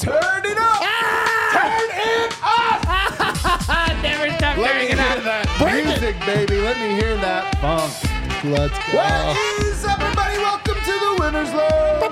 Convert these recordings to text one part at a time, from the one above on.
Turn it up! Turn it up! Never stop Let me turning hear it up. that music, baby. Let me hear that funk. Let's go. What is up, everybody? Welcome to the Winner's Low.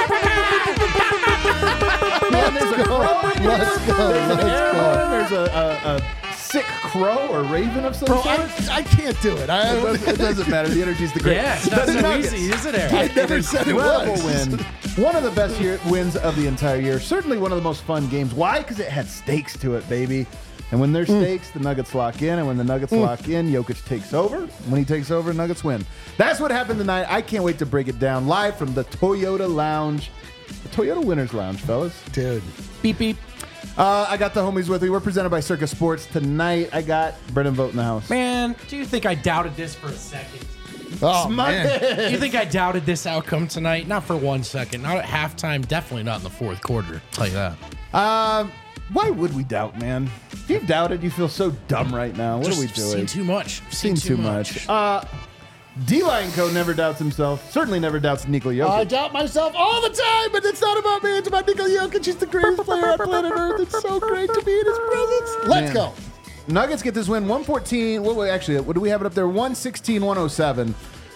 Man, there's a crow. Let's go. There's an Let's airhorn. go. There's a sick crow or raven of some Bro, sort. I can't do it. It doesn't matter. The energy's the great. Yeah, it's not The so Nuggets. easy, is it, Eric? I never said it Incredible was. win. One of the best wins of the entire year. Certainly one of the most fun games. Why? Because it had stakes to it, baby. And when there's stakes, the Nuggets lock in. And when the Nuggets lock in, Jokic takes over. When he takes over, Nuggets win. That's what happened tonight. I can't wait to break it down live from the Toyota Lounge. The Toyota Winners Lounge, fellas. Dude. Beep, beep. I got the homies with me. We're presented by Circus Sports. Tonight, I got Brendan Vogt in the house. Man, do you think I doubted this for a second? Oh, man. Do you think I doubted this outcome tonight? Not for 1 second. Not at halftime. Definitely not in the fourth quarter. I'll tell you that. Why would we doubt, man? If you've doubted, you feel so dumb right now. What are we doing? Seen too much. Seen too much. D-Line Co. never doubts himself. Certainly never doubts Nikola Jokic. I doubt myself all the time, but it's not about me. It's about Nikola Jokic. He's the greatest player on planet Earth. It's so great to be in his presence. Let's Man. go. Nuggets get this win, 114. What do we have it up there? 116-107.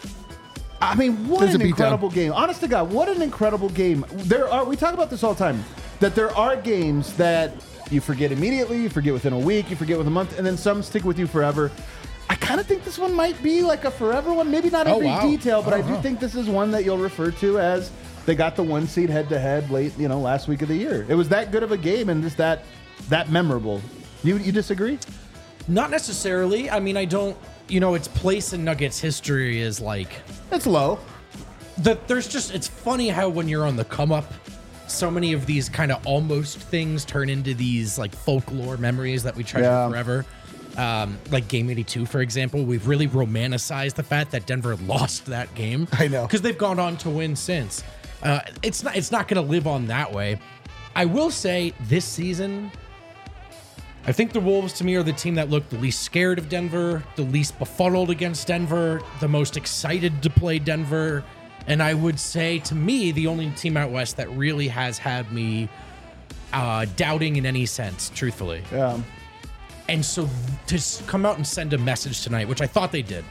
I mean, what There's an a beatdown. incredible game. Honest to God, what an incredible game. We talk about this all the time, that there are games that you forget immediately, you forget within a week, you forget within a month, and then some stick with you forever. I kind of think this one might be like a forever one. Maybe not every detail, but I do think this is one that you'll refer to as they got the 1 seed head-to-head late, last week of the year. It was that good of a game and just that memorable. You disagree? Not necessarily. I mean, I don't. Its place in Nuggets history is like It's low. it's funny how when you're on the come up, so many of these kind of almost things turn into these like folklore memories that we treasure forever. Like Game 82, for example, we've really romanticized the fact that Denver lost that game. I know. Because they've gone on to win since. It's not going to live on that way. I will say this season, I think the Wolves to me are the team that looked the least scared of Denver, the least befuddled against Denver, the most excited to play Denver. And I would say to me, the only team out west that really has had me doubting in any sense, truthfully. Yeah. And so to come out and send a message tonight, which I thought they did,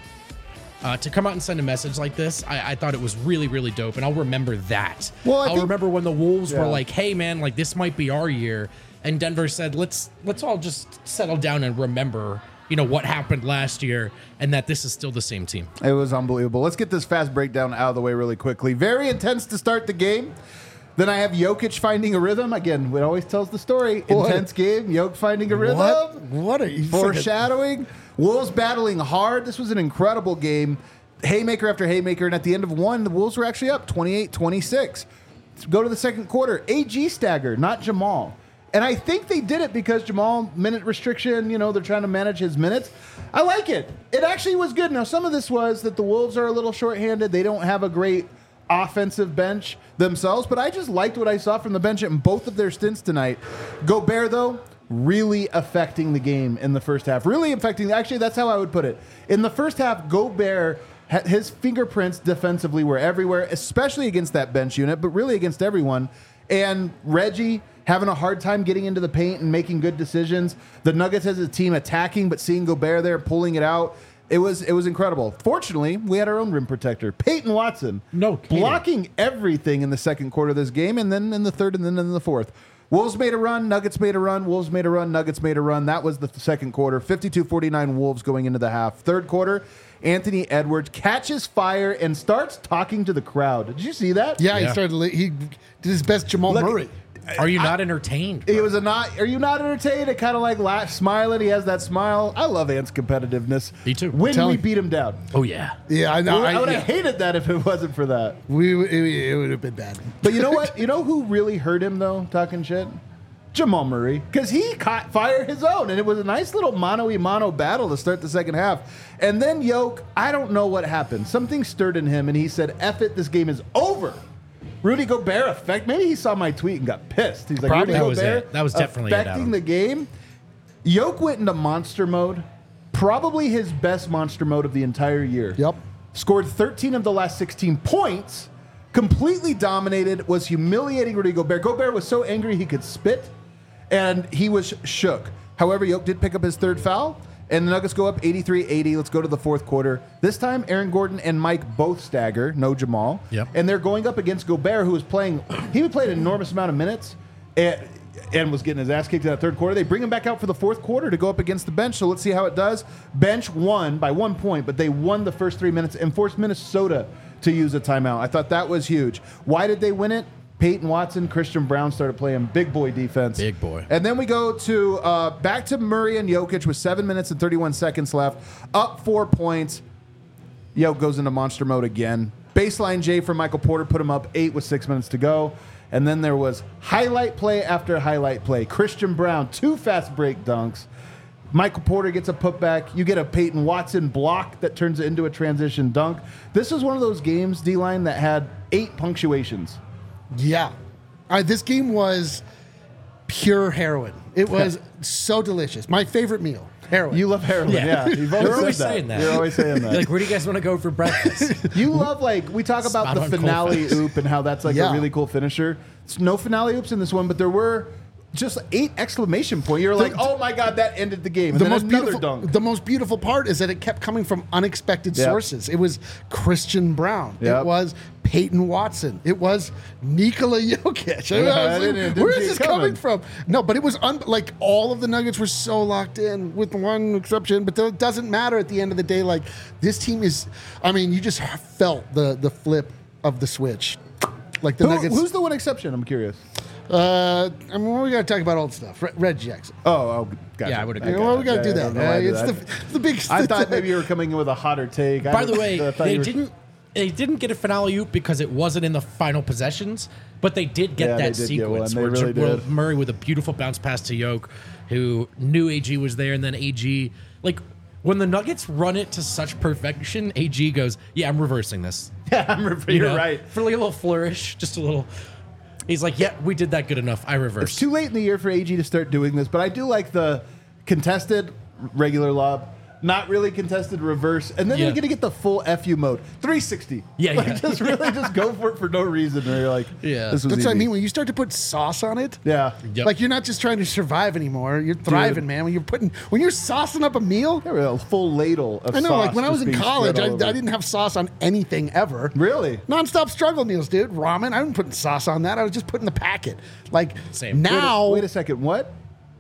to come out and send a message like this, I thought it was really, really dope. And I'll remember that. Well, I'll remember when the Wolves were Yeah. like, hey, man, like this might be our year. And Denver said, let's all just settle down and remember, what happened last year and that this is still the same team. It was unbelievable. Let's get this fast breakdown out of the way really quickly. Very intense to start the game. Then I have Jokic finding a rhythm. Again, it always tells the story. What? Intense game. Jokic finding a rhythm. What are you Foreshadowing. Wolves battling hard. This was an incredible game. Haymaker after haymaker. And at the end of one, the Wolves were actually up 28-26. Go to the second quarter. AG staggered, not Jamal. And I think they did it because Jamal, minute restriction, they're trying to manage his minutes. I like it. It actually was good. Now, some of this was that the Wolves are a little shorthanded. They don't have a great offensive bench themselves, but I just liked what I saw from the bench in both of their stints tonight. Gobert, though, really affecting the game in the first half. Really affecting, actually, that's how I would put it. In the first half, Gobert, his fingerprints defensively were everywhere, especially against that bench unit, but really against everyone. And Reggie having a hard time getting into the paint and making good decisions. The Nuggets as a team attacking, but seeing Gobert there, pulling it out. It was incredible. Fortunately, we had our own rim protector, Peyton Watson. No kidding. Blocking everything in the second quarter of this game, and then in the third, and then in the fourth. Wolves made a run, Nuggets made a run, Wolves made a run, Nuggets made a run. That was the second quarter. 52-49 Wolves going into the half. Third quarter, Anthony Edwards catches fire and starts talking to the crowd. Did you see that? Yeah, Yeah. he did his best Jamal Look, Murray. Are you not entertained? It was are you not entertained? It kind of like smiling. He has that smile. I love Ant's competitiveness. Me too. When Tell we him. beat him down. Oh, yeah. Yeah, I know. I would have hated that if it wasn't for that. It would have been bad. But you know what? You know who really hurt him, though, talking shit? Jamal Murray. Because he caught fire his own, and it was a nice little mano-a-mano battle to start the second half. And then Yoke, I don't know what happened. Something stirred in him, and he said, F it, this game is over. Rudy Gobert effect. Maybe he saw my tweet and got pissed. He's like, Probably. Rudy That was Gobert it. That was definitely it, affecting Adam. the game. Yoke went into monster mode. Probably his best monster mode of the entire year. Yep. Scored 13 of the last 16 points. completely dominated, was humiliating Rudy Gobert. Gobert was so angry he could spit, and he was shook. However, Yoke did pick up his third foul, and the Nuggets go up 83-80. Let's go to the fourth quarter. This time, Aaron Gordon and Mike both stagger, no Jamal. Yep. And they're going up against Gobert, who was playing, he would play an enormous amount of minutes, and was getting his ass kicked in that third quarter. They bring him back out for the fourth quarter to go up against the bench, so let's see how it does. Bench won by 1 point, but they won the first 3 minutes and forced Minnesota to use a timeout. I thought that was huge. Why did they win it? Peyton Watson, Christian Brown started playing big boy defense. Big boy. And then we go to back to Murray and Jokic with 7 minutes and 31 seconds left. Up 4 points. Jokic goes into monster mode again. Baseline J for Michael Porter put him up 8 with 6 minutes to go. And then there was highlight play after highlight play. Christian Brown, 2 fast break dunks. Michael Porter gets a putback. You get a Peyton Watson block that turns it into a transition dunk. This is one of those games, D-Line, that had 8 punctuations. Yeah. This game was pure heroin. It was so delicious. My favorite meal, heroin. You love heroin, yeah. You've You're always said saying that. You're always saying that. Like, where do you guys want to go for breakfast? You love, like, we talk about Spot the on cold finale fast. oop and how that's like a really cool finisher. It's no finale oops in this one, but there were just 8 exclamation point. You're like, oh my God, that ended the game. And then another dunk. The most beautiful part is that it kept coming from unexpected sources. It was Christian Brown. Yep. It was Peyton Watson. It was Nikola Jokic. I didn't Where see is it this coming. coming from? No, but it was like all of the Nuggets were so locked in, with one exception. But it doesn't matter at the end of the day. Like, this team is. I mean, you just felt the flip of the switch. Like the Nuggets. Who's the one exception? I'm curious. I mean, we got to talk about old stuff. Red Jackson. Oh, gotcha. Yeah, I would agree. Yeah, well, we got to do that. It's the big. I thought maybe you were coming in with a hotter take. By the way, they didn't get a finale oop because it wasn't in the final possessions, but they did get that sequence where Murray with a beautiful bounce pass to Yoke, who knew AG was there, and then AG, like, when the Nuggets run it to such perfection, AG goes, "Yeah, I'm reversing this." Yeah, you're right. For like a little flourish, just a little. He's like, "Yeah, we did that good enough. I reversed." It's too late in the year for AG to start doing this, but I do like the contested regular lob, not really contested reverse, and then you're going to get the full FU mode, 360. Yeah, like, just really just go for it for no reason. Where you're like, Yeah. this was That's easy. what I mean. When you start to put sauce on it, Yeah. Yep. like you're not just trying to survive anymore. You're thriving, man. When you're saucing up a meal. There was a full ladle of I know, sauce like when I was just in being college, spread I all over. didn't have sauce on anything ever. Really? Nonstop struggle meals, dude. Ramen. I wasn't putting sauce on that. I was just putting the packet. Like Same. now, Wait a second. What?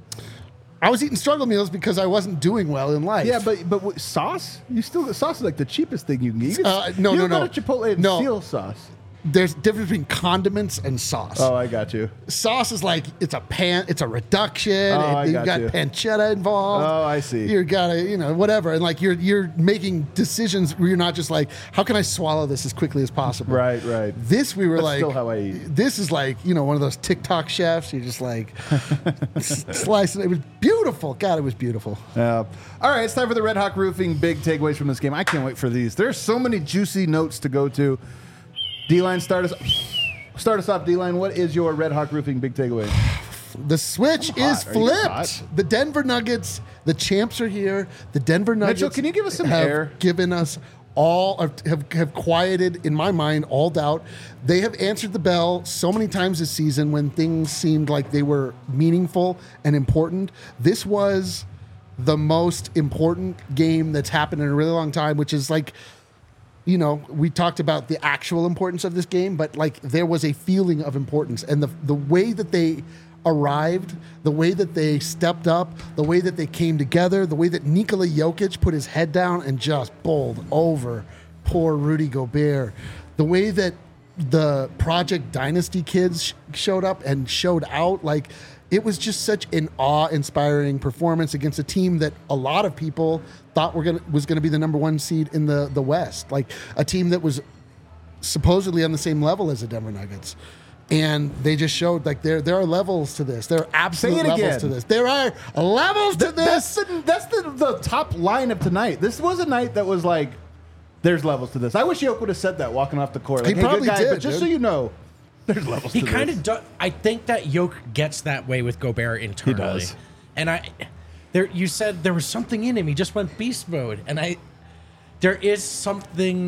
I was eating struggle meals because I wasn't doing well in life. Yeah, but sauce? Sauce is like the cheapest thing you can get. No. Go to Chipotle and steal sauce. There's a difference between condiments and sauce. Oh, I got you. Sauce is like it's a reduction. I You've got got you. pancetta involved. Oh, I see. You gotta, whatever, and like you're making decisions where you're not just like, how can I swallow this as quickly as possible? Right. This we were That's like, still how I eat. This is like one of those TikTok chefs. You're just like slicing. It was beautiful. God, it was beautiful. All right, it's time for the Red Hawk Roofing big takeaways from this game. I can't wait for these. There's so many juicy notes to go to. D-Line, start us off, D-Line. What is your Red Hawk Roofing big takeaway? The switch is Are you hot? flipped. The Denver Nuggets, the champs are here. The Denver Nuggets. Mitchell, can you give us some have air? Given us have quieted, in my mind, all doubt. They have answered the bell so many times this season when things seemed like they were meaningful and important. This was the most important game that's happened in a really long time, which is like, we talked about the actual importance of this game, but like there was a feeling of importance, and the way that they arrived, the way that they stepped up, the way that they came together, the way that Nikola Jokic put his head down and just bowled over poor Rudy Gobert, the way that the Project Dynasty kids showed up and showed out, like it was just such an awe-inspiring performance against a team that a lot of people thought was gonna be the number 1 seed in the West, like a team that was supposedly on the same level as the Denver Nuggets. And they just showed like there are levels to this. There are absolute levels again. to this. There are levels to this. That's the top line of tonight. This was a night that was like, there's levels to this. I wish Yoke would have said that walking off the court. Like, He probably good guy, did, but just dude. so you know, there's levels He to kind this. of does. I think that Yoke gets that way with Gobert internally. does. And you said there was something in him. He just went beast mode. And there is something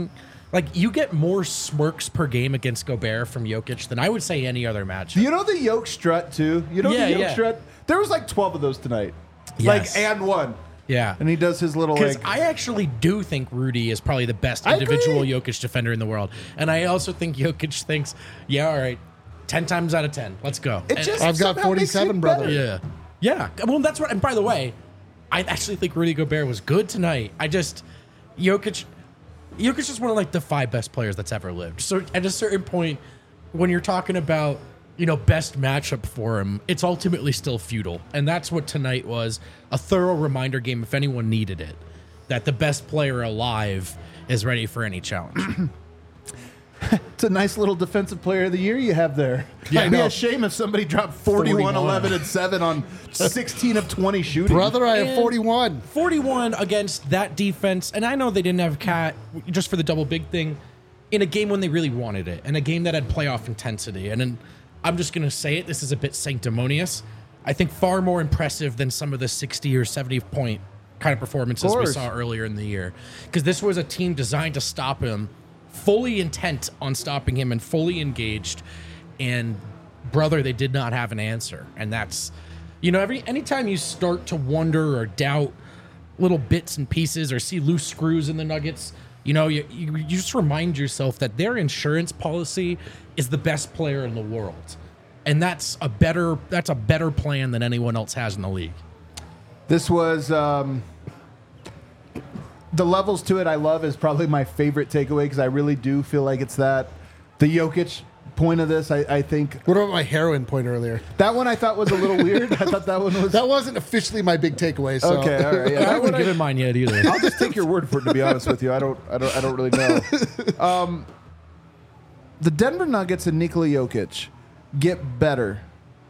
Like, you get more smirks per game against Gobert from Jokic than I would say any other match. You know the Yoke strut, too? You know the Yoke strut? There was like 12 of those tonight. Yes. And one. Yeah. And he does his little, Because like... I actually do think Rudy is probably the best individual Jokic defender in the world. And I also think Jokic thinks, yeah, all right, 10 times out of 10. Let's go. I've got 47, brother. Yeah. Yeah. Well, that's what... And by the way, I actually think Rudy Gobert was good tonight. Jokic is one of like the 5 best players that's ever lived. So at a certain point, when you're talking about, best matchup for him, it's ultimately still futile. And that's what tonight was, a thorough reminder game, if anyone needed it, that the best player alive is ready for any challenge. It's a nice little defensive player of the year you have there. Yeah, It'd be a shame if somebody dropped 41, 11, and 7 on 16 of 20 shooting. Brother, I have 41. 41 against that defense. And I know they didn't have Cat just for the double big thing in a game when they really wanted it, in a game that had playoff intensity. And then I'm just going to say it. This is a bit sanctimonious. I think far more impressive than some of the 60 or 70 point kind of performances we saw earlier in the year. Because this was a team designed to stop him, fully intent on stopping him and fully engaged. And brother, they did not have an answer. And that's, anytime you start to wonder or doubt little bits and pieces or see loose screws in the Nuggets, you just remind yourself that their insurance policy is the best player in the world. And that's a better plan than anyone else has in the league. This was the levels to it I love is probably my favorite takeaway because I really do feel like it's that. The Jokic point of this, I think. What about my heroin point earlier? That one I thought was a little weird. I thought that one was... That wasn't officially my big takeaway. So. Okay, all right. Yeah, I haven't given mine yet either. I'll just take your word for it, to be honest with you. I don't really know. The Denver Nuggets and Nikola Jokic get better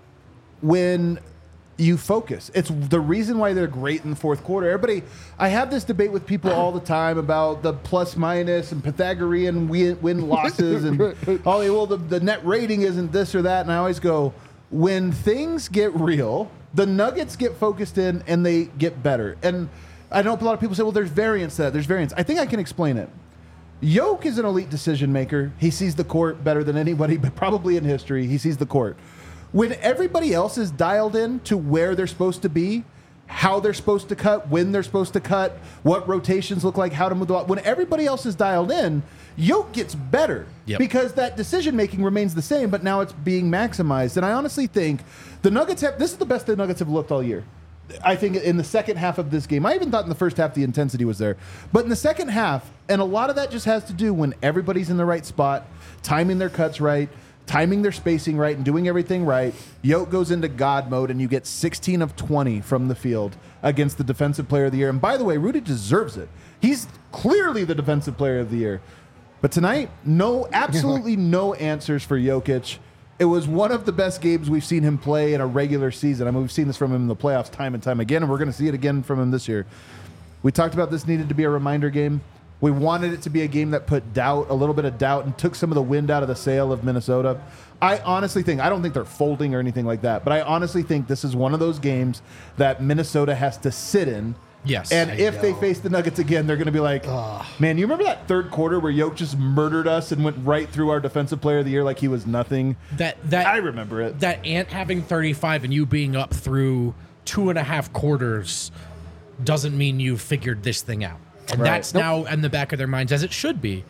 when you focus. It's the reason why they're great in the fourth quarter. I have this debate with people all the time about the plus minus and Pythagorean win losses and the net rating isn't this or that. And I always go, when things get real, the Nuggets get focused in and they get better. And I know a lot of people say, well, there's variance to that. There's variance. I think I can explain it. Yoke is an elite decision maker. He sees the court better than anybody, but probably in history. He sees the court. When everybody else is dialed in to where they're supposed to be, how they're supposed to cut, when they're supposed to cut, what rotations look like, how to move the ball. When everybody else is dialed in, Yoke gets better because that decision making remains the same, but now it's being maximized. And I honestly think the Nuggets this is the best the Nuggets have looked all year. I think in the second half of this game, I even thought in the first half the intensity was there, but in the second half, and a lot of that just has to do when everybody's in the right spot, timing their cuts right, timing their spacing right, and doing everything right. Yoke goes into God mode, and you get 16 of 20 from the field against the defensive player of the year. And by the way, Rudy deserves it. He's clearly the defensive player of the year. But tonight, absolutely no answers for Jokic. It was one of the best games we've seen him play in a regular season. I mean, we've seen this from him in the playoffs time and time again, and we're going to see it again from him this year. We talked about this needed to be a reminder game. We wanted it to be a game that put a little bit of doubt, and took some of the wind out of the sail of Minnesota. I honestly think, I don't think they're folding or anything like that, but I honestly think this is one of those games that Minnesota has to sit in. Yes. And if they face the Nuggets again, they're going to be like, man, you remember that third quarter where Yoke just murdered us and went right through our defensive player of the year like he was nothing? I remember it. That Ant having 35 and you being up through 2.5 quarters doesn't mean you figured this thing out. And that's now in the back of their minds, as it should be.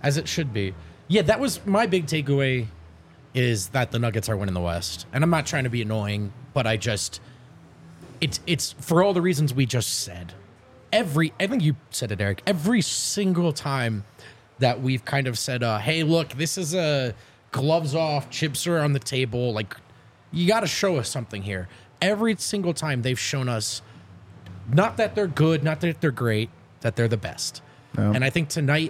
Yeah, that was my big takeaway, is that the Nuggets are winning the West. And I'm not trying to be annoying, but it's for all the reasons we just said. I think you said it, Eric, every single time that we've kind of said, hey, look, this is a gloves off, chips are on the table, like, you got to show us something here. Every single time they've shown us, not that they're good, not that they're great, that they're the best. No. And I think tonight,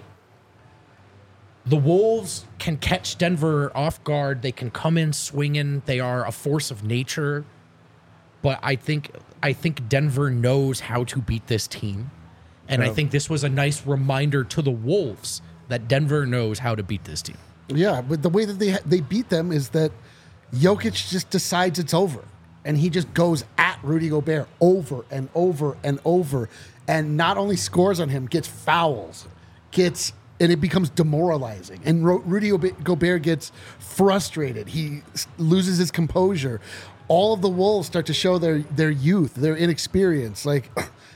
the Wolves can catch Denver off guard. They can come in swinging. They are a force of nature. But I think Denver knows how to beat this team. And I think this was a nice reminder to the Wolves that Denver knows how to beat this team. Yeah, but the way that they beat them is that Jokic just decides it's over. And he just goes at Rudy Gobert over and over and over. And not only scores on him, gets fouls, gets and it becomes demoralizing. And Rudy Gobert gets frustrated. He loses his composure. All of the Wolves start to show their youth, their inexperience. Like,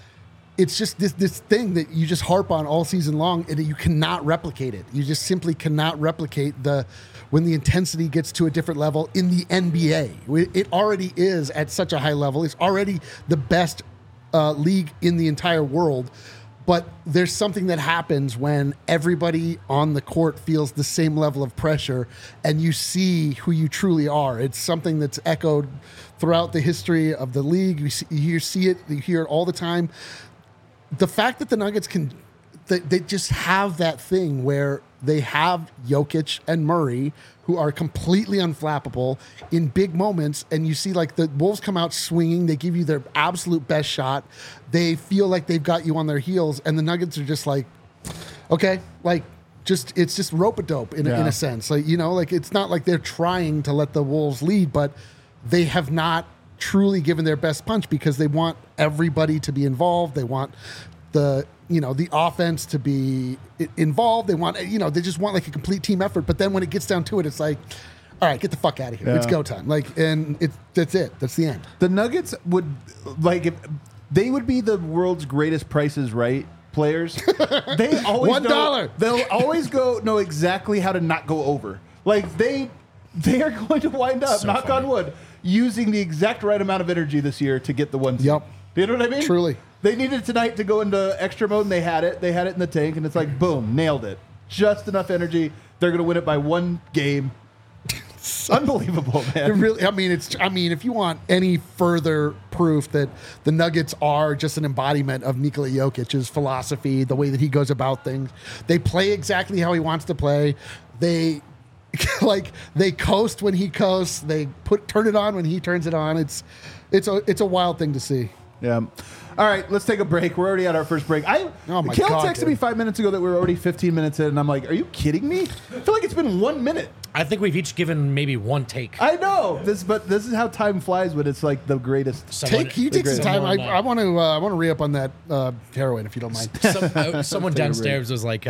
it's just this thing that you just harp on all season long, and you cannot replicate it. You just simply cannot replicate when the intensity gets to a different level in the NBA. It already is at such a high level. It's already the best league in the entire world. But there's something that happens when everybody on the court feels the same level of pressure and you see who you truly are. It's something that's echoed throughout the history of the league. You see it, you hear it all the time. The fact that the Nuggets they just have that thing where they have Jokic and Murray, who are completely unflappable in big moments, and you see like the Wolves come out swinging, they give you their absolute best shot, they feel like they've got you on their heels, and the Nuggets are just like, okay, like it's just rope-a-dope in a sense. Like, like it's not like they're trying to let the Wolves lead, but they have not truly given their best punch because they want everybody to be involved. They want the offense to be involved. They want, they just want like a complete team effort. But then when it gets down to it, it's like, all right, get the fuck out of here. It's go time. Like, and that's it. That's the end. The Nuggets would if they would be the world's greatest Prices Right players. They always $1. They'll always know exactly how to not go over. Like they are going to wind up, So knock funny. on wood, using the exact right amount of energy this year to get the one seed. Yep. You know what I mean? Truly. They needed tonight to go into extra mode, and they had it. They had it in the tank, and it's like, boom, nailed it. Just enough energy. They're going to win it by one game. Unbelievable, man. It really, if you want any further proof that the Nuggets are just an embodiment of Nikola Jokic's philosophy, the way that he goes about things, they play exactly how he wants to play. They they coast when he coasts. They turn it on when he turns it on. It's a wild thing to see. Yeah. All right, let's take a break. We're already at our first break. Oh my Kale God, texted dude. me 5 minutes ago that we were already 15 minutes in, and I'm like, are you kidding me? I feel like it's been 1 minute. I think we've each given maybe one take. I know but this is how time flies when it's like the greatest. Can you take some time? I want to re-up on that heroin if you don't mind. Someone downstairs was like,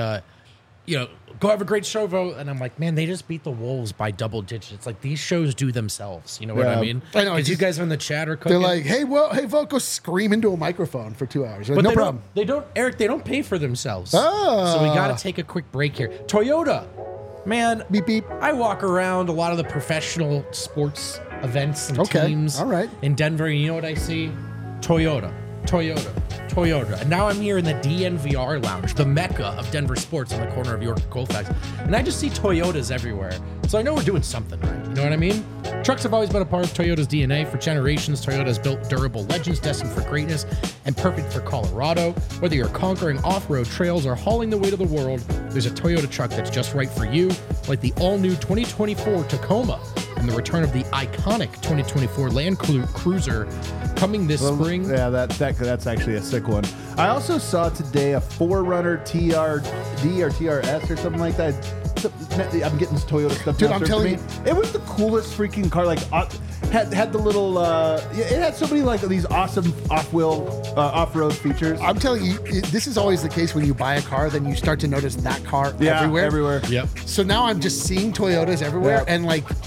go have a great show, Vo. And I'm like, man, they just beat the Wolves by double digits. Like, these shows do themselves. You know what I mean? I know, Because you guys are in the chat or cooking. They're like, hey, Voco, scream into a microphone for 2 hours. Like, But no they problem. Eric, they don't pay for themselves. Ah. So we got to take a quick break here. Toyota, man. Beep, beep. I walk around a lot of the professional sports events and Okay, teams all right. in Denver. And you know what I see? Toyota. And now I'm here in the DNVR lounge, the mecca of Denver sports on the corner of York and Colfax. And I just see Toyotas everywhere. So I know we're doing something right. You know what I mean? Trucks have always been a part of Toyota's DNA. For generations, Toyota has built durable legends destined for greatness and perfect for Colorado. Whether you're conquering off-road trails or hauling the weight of the world, there's a Toyota truck that's just right for you, like the all-new 2024 Tacoma and the return of the iconic 2024 Land Cruiser coming this spring. Yeah, that's actually a sick one. I also saw today a 4Runner TRD or TRS or something like that. I'm getting this Toyota stuff. Dude, now I'm served telling to me. It was the coolest freaking car. Like, had the little. It had so many like these awesome off-road features. I'm telling you, this is always the case when you buy a car, then you start to notice that car everywhere. Yep. So now I'm just seeing Toyotas everywhere, Yeah. and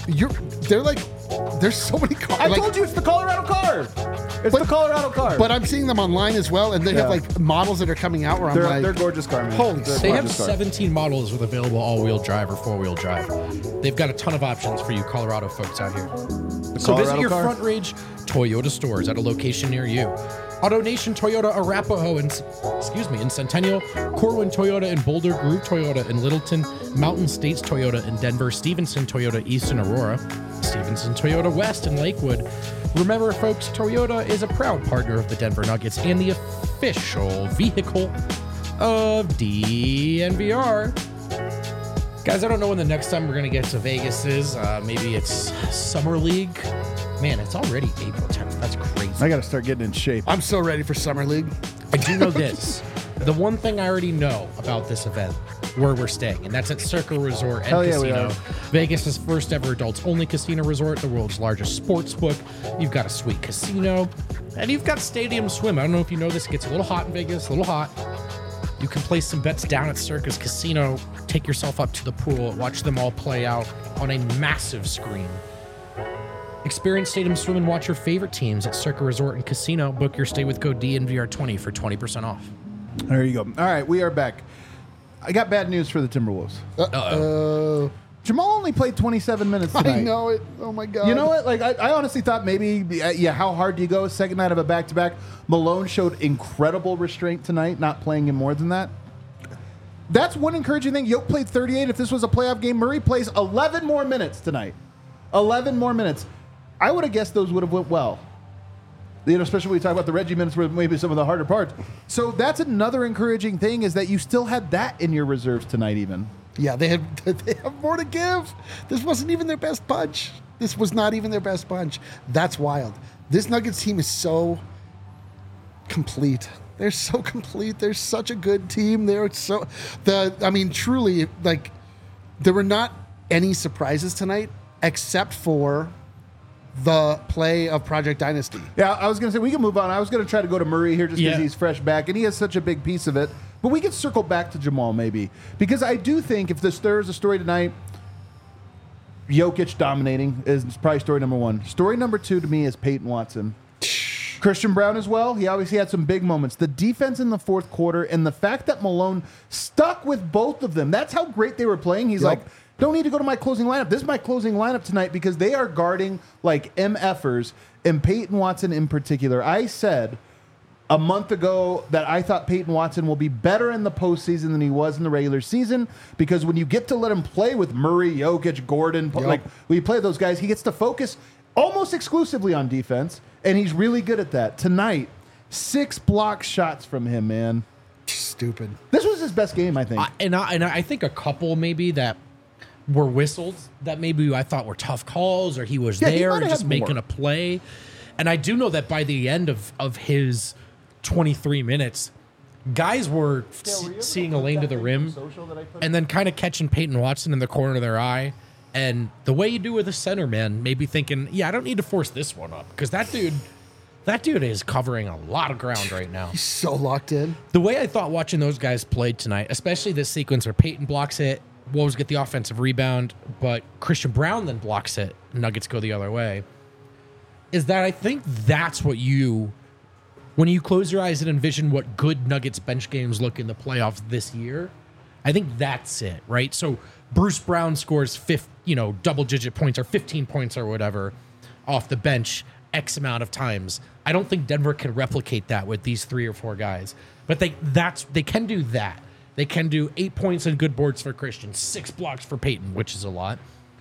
there's so many cars. I told you it's the Colorado car. It's the Colorado car. But I'm seeing them online as well, and they have like models that are coming out where I'm like, they're gorgeous car, man. Holy They're shit. They have gorgeous car. 17 models with available all-wheel drive or four-wheel drive. They've got a ton of options for you Colorado folks out here. So visit Colorado your car? Front Ridge Toyota stores at a location near you. AutoNation Toyota Arapahoe in Centennial, Corwin Toyota in Boulder, Groove Toyota in Littleton, Mountain States Toyota in Denver, Stevenson Toyota East in Aurora, Stevenson Toyota West in Lakewood. Remember, folks, Toyota is a proud partner of the Denver Nuggets and the official vehicle of DNVR. Guys, I don't know when the next time we're going to get to Vegas is. Maybe it's Summer League. Man, it's already April 10th. That's crazy. I got to start getting in shape. I'm so ready for Summer League. I do know this. The one thing I already know about this event, where we're staying, and that's at Circa Resort and Hell yeah, we Casino. are. Vegas' first ever adults-only casino resort, the world's largest sports book. You've got a sweet casino, and you've got stadium swim. I don't know if you know this. It gets a little hot in Vegas, a little hot. You can place some bets down at Circus Casino, take yourself up to the pool, watch them all play out on a massive screen. Experience Stadium Swim and watch your favorite teams at Circa Resort and Casino. Book your stay with code DNVR20 for 20% off. There you go. All right, we are back. I got bad news for the Timberwolves. Jamal only played 27 minutes tonight. I know it. Oh my God. You know what? Like I honestly thought maybe, how hard do you go? Second night of a back-to-back. Malone showed incredible restraint tonight, not playing him more than that. That's one encouraging thing. Yoke played 38. If this was a playoff game, Murray plays 11 more minutes tonight. 11 more minutes. I would have guessed those would have went well. Especially when we talk about the Reggie minutes were maybe some of the harder parts. So that's another encouraging thing is that you still had that in your reserves tonight even. Yeah, they have more to give. This wasn't even their best punch. This was not even their best punch. That's wild. This Nuggets team is so complete. They're so complete. They're such a good team. Truly, like, there were not any surprises tonight except for the play of Project Dynasty. Yeah, I was going to say, we can move on. I was going to try to go to Murray here just because Yeah. he's fresh back, and he has such a big piece of it. But we can circle back to Jamal maybe. Because I do think if there is a story tonight, Jokic dominating is probably story number one. Story number two to me is Peyton Watson. Christian Brown as well. He obviously had some big moments. The defense in the fourth quarter and the fact that Malone stuck with both of them. That's how great they were playing. He's like, don't need to go to my closing lineup. This is my closing lineup tonight because they are guarding like MFers and Peyton Watson in particular. I said a month ago that I thought Peyton Watson will be better in the postseason than he was in the regular season because when you get to let him play with Murray, Jokic, Gordon, like when you play those guys, he gets to focus almost exclusively on defense, and he's really good at that. Tonight, 6 block shots from him, man. Stupid. This was his best game, I think. And I think a couple maybe that were whistled that maybe I thought were tough calls or he was he there might and have just had making more. a play. And I do know that by the end of his 23 minutes, guys were seeing a lane to the rim and then kind of catching Peyton Watson in the corner of their eye. And the way you do with a center, man, maybe thinking, yeah, I don't need to force this one up because that dude is covering a lot of ground right now. He's so locked in. The way I thought watching those guys played tonight, especially this sequence where Peyton blocks it, Wolves get the offensive rebound, but Christian Brown then blocks it, Nuggets go the other way, is that I think that's what when you close your eyes and envision what good Nuggets bench games look in the playoffs this year, I think that's it, right? So Bruce Brown scores double-digit points or 15 points or whatever off the bench X amount of times. I don't think Denver can replicate that with these 3 or 4 guys, but they can do that. They can do 8 points and good boards for Christian, 6 blocks for Peyton, which is a lot.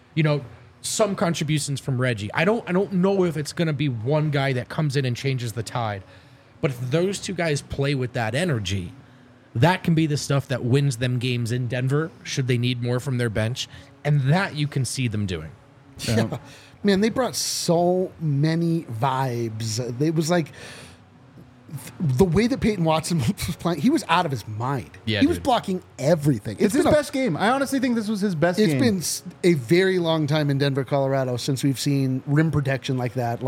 Some contributions from Reggie. I don't know if it's going to be one guy that comes in and changes the tide, but if those 2 guys play with that energy, that can be the stuff that wins them games in Denver, should they need more from their bench, and that you can see them doing. Yeah. Man, they brought so many vibes. It was like the way that Peyton Watson was playing, he was out of his mind. Yeah, he was dude. blocking everything. It's his best game. I honestly think this was his best game. It's been a very long time in Denver, Colorado since we've seen rim protection like that.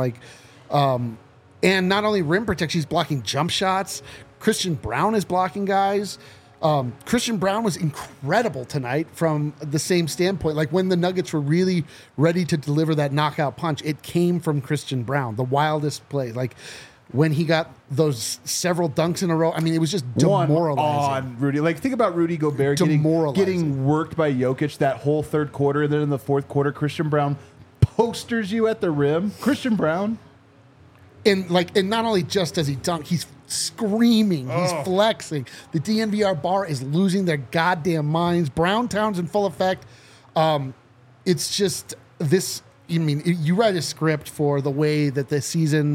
And not only rim protection, he's blocking jump shots. Christian Brown is blocking guys. Christian Brown was incredible tonight from the same standpoint. Like when the Nuggets were really ready to deliver that knockout punch, it came from Christian Brown, the wildest play. Like when he got those several dunks in a row, I mean, it was just demoralizing. On Rudy. Like, think about Rudy Gobert getting worked by Jokic that whole third quarter. And then in the fourth quarter, Christian Brown posters you at the rim. Christian Brown. And not only just does he dunk, he's screaming, he's flexing. The DNVR bar is losing their goddamn minds. Brown Town's in full effect. It's just this. You write a script for the way that the season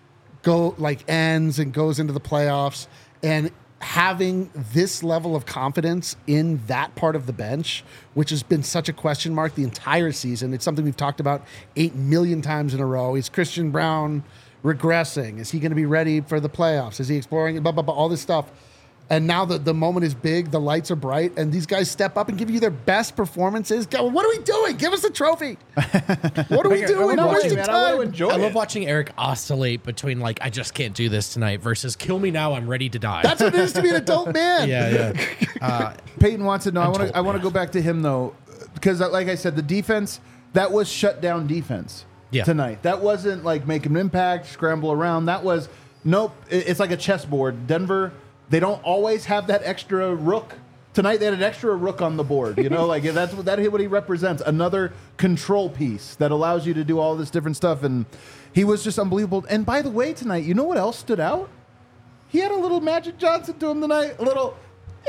ends and goes into the playoffs, and having this level of confidence in that part of the bench, which has been such a question mark the entire season. It's something we've talked about 8 million times in a row. Is Christian Brown regressing? Is he going to be ready for the playoffs? Is he exploring blah, blah, blah, all this stuff? And now the moment is big, the lights are bright, and these guys step up and give you their best performances. Go, what are we doing? Give us the trophy. What are we doing? No, Where's hey, the man, I want to time? enjoy I love it. watching Eric oscillate between like I just can't do this tonight versus kill me now, I'm ready to die. That's what it is to be an adult man. yeah. Peyton wants to know. I want to go back to him though, because like I said, the defense that was shut down defense tonight. That wasn't like make an impact, scramble around. That was nope. It's like a chessboard. Denver. They don't always have that extra rook. Tonight they had an extra rook on the board. You know, like that's what he represents. Another control piece that allows you to do all this different stuff. And he was just unbelievable. And by the way, tonight, you know what else stood out? He had a little Magic Johnson to him tonight. A little.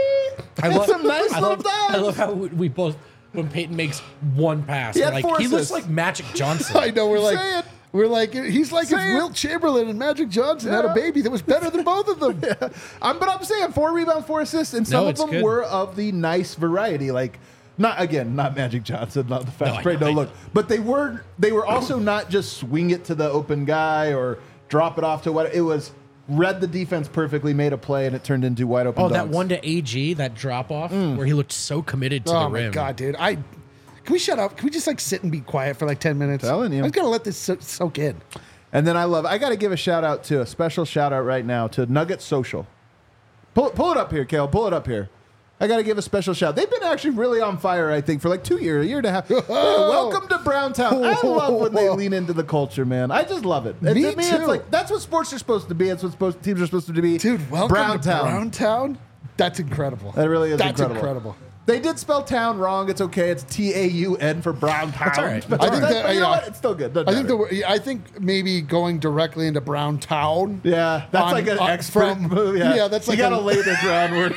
Some nice little dives. I love how we both when Peyton makes one pass, He we're had like four he looks assists. like Magic Johnson. I know. Say it. We're like he's like if Say it. Wilt Chamberlain and Magic Johnson had a Yeah. baby that was better than both of them. But I'm saying 4 rebounds, 4 assists, and some No, of it's them good. were of the nice variety. Like, not Magic Johnson, not the fast I break, know, no I look. know. But they were also not just swing it to the open guy or drop it off to what it was. Read the defense perfectly, made a play, and it turned into wide open. Oh, that dunks. one to AG, that drop off where he looked so committed to Oh the my rim. god, dude! Can we shut up? Can we just like sit and be quiet for like 10 minutes? Telling you. I just gotta let this soak in. And then I got to give a special shout out right now to Nugget Social. Pull it up here, Kale. Pull it up here. I got to give a special shout. They've been actually really on fire, I think, for like 2 years, a year and a half. Welcome to Browntown. I love when they lean into the culture, man. I just love it. Me to me, too. It's like that's what sports are supposed to be. It's what teams are supposed to be. Dude, welcome Browntown. to Browntown. That's incredible. That really is That's incredible. They did spell town wrong. It's okay. It's TAUN for Browntown. That's all right. But I think that, you know yeah. what? It's still good. Doesn't matter. I think maybe going directly into Browntown. Yeah, that's on- like an on- expert from- move. yeah, that's like you got to a- lay the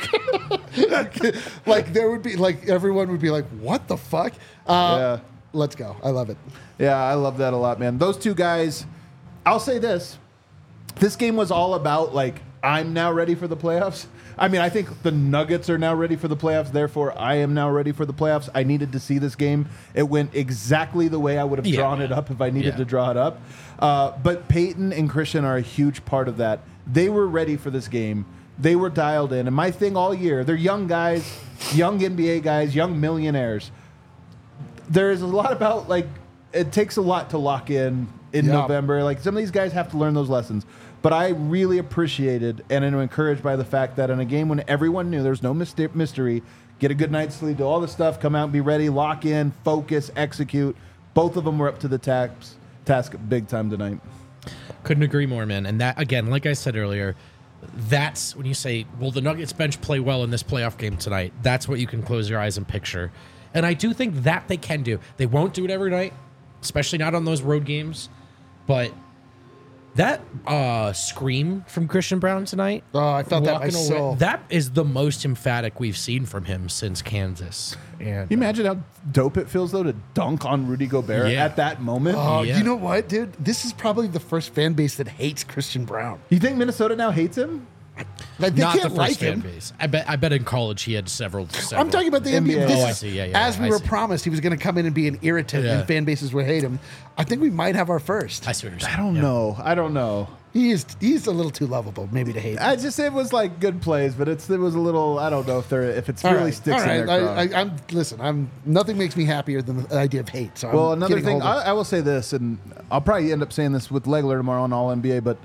groundwork. Like there would be like everyone would be like, "What the fuck?" Yeah. Let's go. I love it. Yeah, I love that a lot, man. Those two guys, I'll say this. This game was all about, like, I'm now ready for the playoffs. I mean, I think the Nuggets are now ready for the playoffs. Therefore, I am now ready for the playoffs. I needed to see this game. It went exactly the way I would have Yeah. drawn it up if I needed Yeah. to draw it up. But Peyton and Christian are a huge part of that. They were ready for this game. They were dialed in. And my thing all year, they're young guys, young NBA guys, young millionaires. There's a lot about, like, it takes a lot to lock in Yeah. November. Like, some of these guys have to learn those lessons. But I really appreciated and am encouraged by the fact that in a game when everyone knew there's no mystery, get a good night's sleep, do all the stuff, come out and be ready, lock in, focus, execute. Both of them were up to the task big time tonight. Couldn't agree more, man. And that, again, like I said earlier, that's when you say, will the Nuggets bench play well in this playoff game tonight? That's what you can close your eyes and picture. And I do think that they can do. They won't do it every night, especially not on those road games. But that scream from Christian Brown tonight. Oh, I felt that in my walking away, soul. that is the most emphatic we've seen from him since Kansas. And Can you imagine how dope it feels, though, to dunk on Rudy Gobert Yeah. at that moment? Oh, Yeah. you know what, dude? This is probably the first fan base that hates Christian Brown. You think Minnesota now hates him? Like they not the can't first like fan him. base. I bet in college he had several. I'm talking about the NBA. NBA. This Oh, I is- see. Yeah, yeah, As we I were see. promised, he was going to come in and be an irritant, Yeah. and fan bases would hate him. I think we might have our first. I see what you're saying. I don't know. I don't know. He's a little too lovable, maybe to hate. I just it was like good plays, but it was a little. I don't know if it's All really right, sticks all right. in their craw. I'm listen. Nothing makes me happier than the idea of hate. So Well, I'm another getting thing, hold of- I will say this, and I'll probably end up saying this with Legler tomorrow on All NBA, but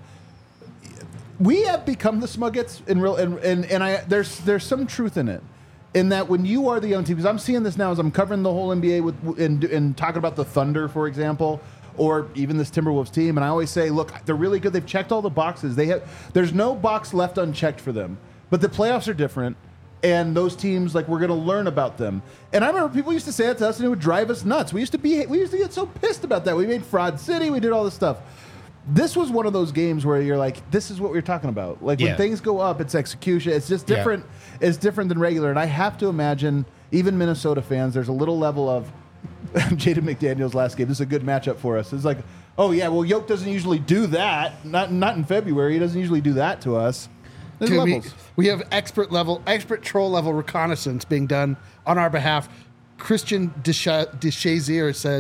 we have become the Smuggets in real, there's some truth in it, in that when you are the young team, because I'm seeing this now as I'm covering the whole NBA and talking about the Thunder, for example, or even this Timberwolves team, and I always say, look, they're really good. They've checked all the boxes. There's no box left unchecked for them, but the playoffs are different. And those teams, like, we're going to learn about them. And I remember people used to say that to us, and it would drive us nuts. We used to get so pissed about that. We made Fraud City. We did all this stuff. This was one of those games where you're like, this is what we're talking about. Like, when Yeah. things go up, it's execution. It's just Yeah. different. It's different than regular. And I have to imagine, even Minnesota fans, there's a little level of Jaden McDaniels last game. This is a good matchup for us. It's like, oh, yeah, well, Yoke doesn't usually do that. Not in February. He doesn't usually do that to us. There's Dude, levels. we have expert troll level reconnaissance being done on our behalf. Christian Deshazier says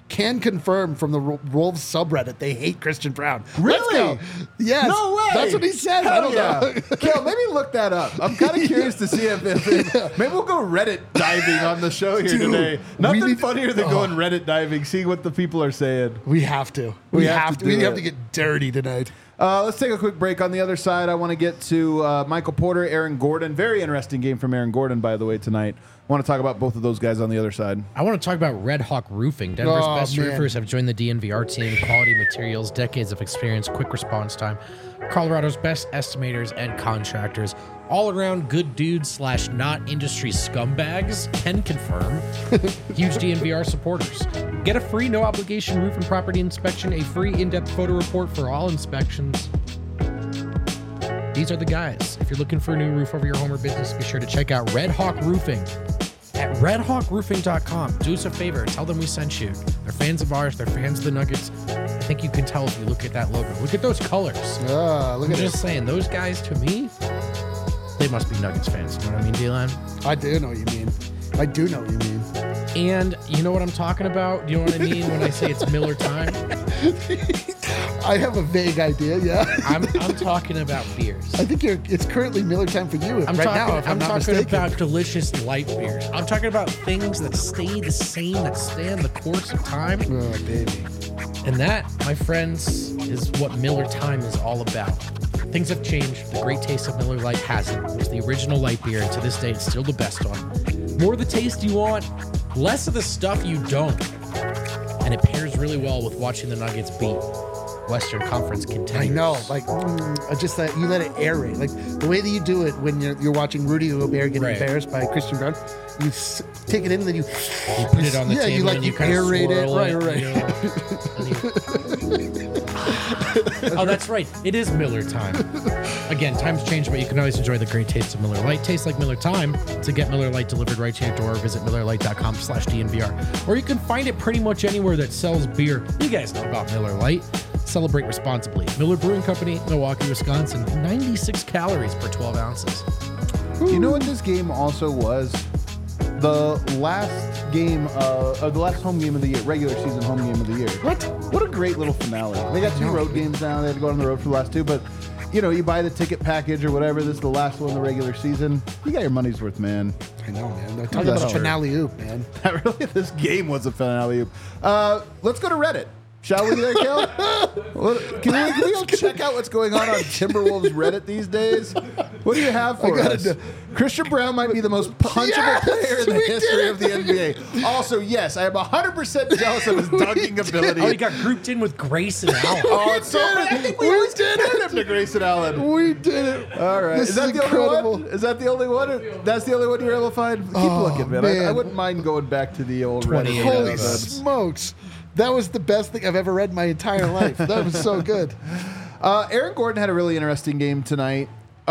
can confirm from the Wolves subreddit they hate Christian Brown. Really? Let's go. Yes. No way. That's what he said. I don't know. Kel, maybe look that up. I'm kind of curious to see if maybe we'll go Reddit diving on the show here today. Nothing funnier than going Reddit diving, seeing what the people are saying. We have to. We have to get dirty tonight. Let's take a quick break. On the other side, I want to get to Michael Porter, Aaron Gordon. Very interesting game from Aaron Gordon, by the way, tonight. I want to talk about both of those guys on the other side. I want to talk about Red Hawk Roofing. Denver's best roofers have joined the DNVR team. Quality materials, decades of experience, quick response time. Colorado's best estimators and contractors. All around good dudes / not industry scumbags can confirm. Huge DNVR supporters. Get a free no obligation roof and property inspection, a free in-depth photo report for all inspections. These are the guys. If you're looking for a new roof over your home or business, be sure to check out Red Hawk Roofing at redhawkroofing.com. Do us a favor. Tell them we sent you. They're fans of ours. They're fans of the Nuggets. I think you can tell if you look at that logo. Look at those colors. Look I'm just saying, those guys, to me, they must be Nuggets fans. You know what I mean, D-Line? I do know what you mean. I do know what you mean. And you know what I'm talking about? You know what I mean when I say it's Miller time? I have a vague idea, yeah. I'm talking about beers. I think it's currently Miller time for you I'm talking talking about delicious light beers. I'm talking about things that stay the same, that stand the course of time. Oh, baby. And that, my friends, is what Miller time is all about. Things have changed. The great taste of Miller Lite hasn't. It was the original light beer, and to this day, it's still the best one. More of the taste you want, less of the stuff you don't. And it pairs really well with watching the Nuggets beat Western Conference contenders. I know, like just that you let it aerate, like the way that you do it when you're watching Rudy Gobert get embarrassed by Christian Brown. You take it in, and then you put it on the table, and you kind of aerate it. Right. Oh, that's right. It is Miller time. Again, times change, but you can always enjoy the great taste of Miller Lite. Tastes like Miller time. To get Miller Lite delivered right to your door, visit MillerLite.com/DNVR. Or you can find it pretty much anywhere that sells beer. You guys know about Miller Lite. Celebrate responsibly. Miller Brewing Company, Milwaukee, Wisconsin. 96 calories per 12 ounces. You know what this game also was? The last game, the last home game of the year, regular season home game of the year. What a great little finale. They got 2 road games now. They had to go on the road for the last 2, but you know, you buy the ticket package or whatever. This is the last one in the regular season. You got your money's worth, man. I know, man. Talk about a finale oop, man. This game was a finale oop. Let's go to Reddit. Shall we there, Kel? Can we go check out what's going on Timberwolves Reddit these days? What do you have for us? Christian Brown might be the most punchable player in the history of the NBA. Also, yes, I am 100% jealous of his dunking ability. Oh, he got grouped in with Grayson Allen. Oh, it's so funny. I think we did him to Grayson Allen. We did it. All right. Is that the only one? Is that the only one? That's the only one you're able to find? Keep looking, man. I wouldn't mind going back to the old Reddit. Holy smokes. That was the best thing I've ever read in my entire life. That was so good. Aaron Gordon had a really interesting game tonight.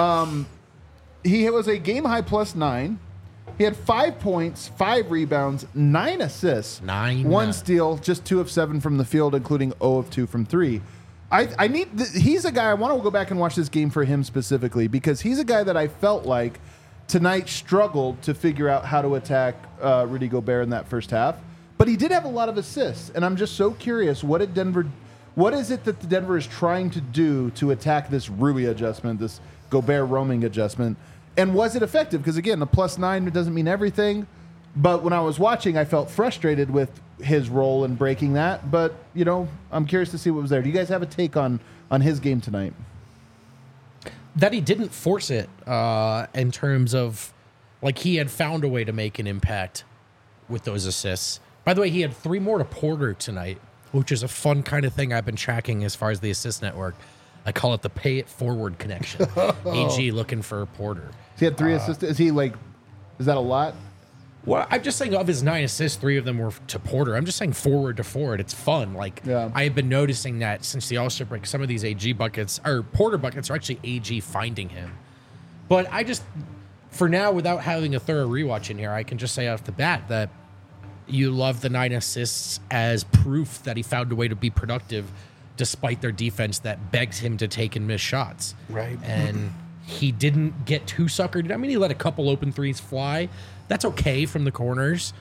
He was a game-high +9. He had 5 points, 5 rebounds, 9 assists, 1 steal, just 2 of 7 from the field, including 0 of 2 from 3. He's a guy, I want to go back and watch this game for him specifically, because he's a guy that I felt like tonight struggled to figure out how to attack Rudy Gobert in that first half. But he did have a lot of assists, and I'm just so curious, what is it that the Denver is trying to do to attack this Rui adjustment, this Gobert roaming adjustment, and was it effective? Because again, the +9 doesn't mean everything, but when I was watching, I felt frustrated with his role in breaking that. But you know, I'm curious to see what was there. Do you guys have a take on his game tonight? That he didn't force it in terms of, like, he had found a way to make an impact with those assists. By the way, he had 3 more to Porter tonight, which is a fun kind of thing I've been tracking as far as the assist network. I call it the pay it forward connection. AG looking for Porter. He had 3 assists. Is that a lot? Well, I'm just saying of his 9 assists, 3 of them were to Porter. I'm just saying forward to forward. It's fun. Like, I have been noticing that since the All-Star break, some of these AG buckets, or Porter buckets, are actually AG finding him. But I just, for now, without having a thorough rewatch in here, I can just say off the bat that you love the 9 assists as proof that he found a way to be productive despite their defense that begs him to take and miss shots. Right. And he didn't get too suckered. I mean, he let a couple open threes fly. That's okay from the corners.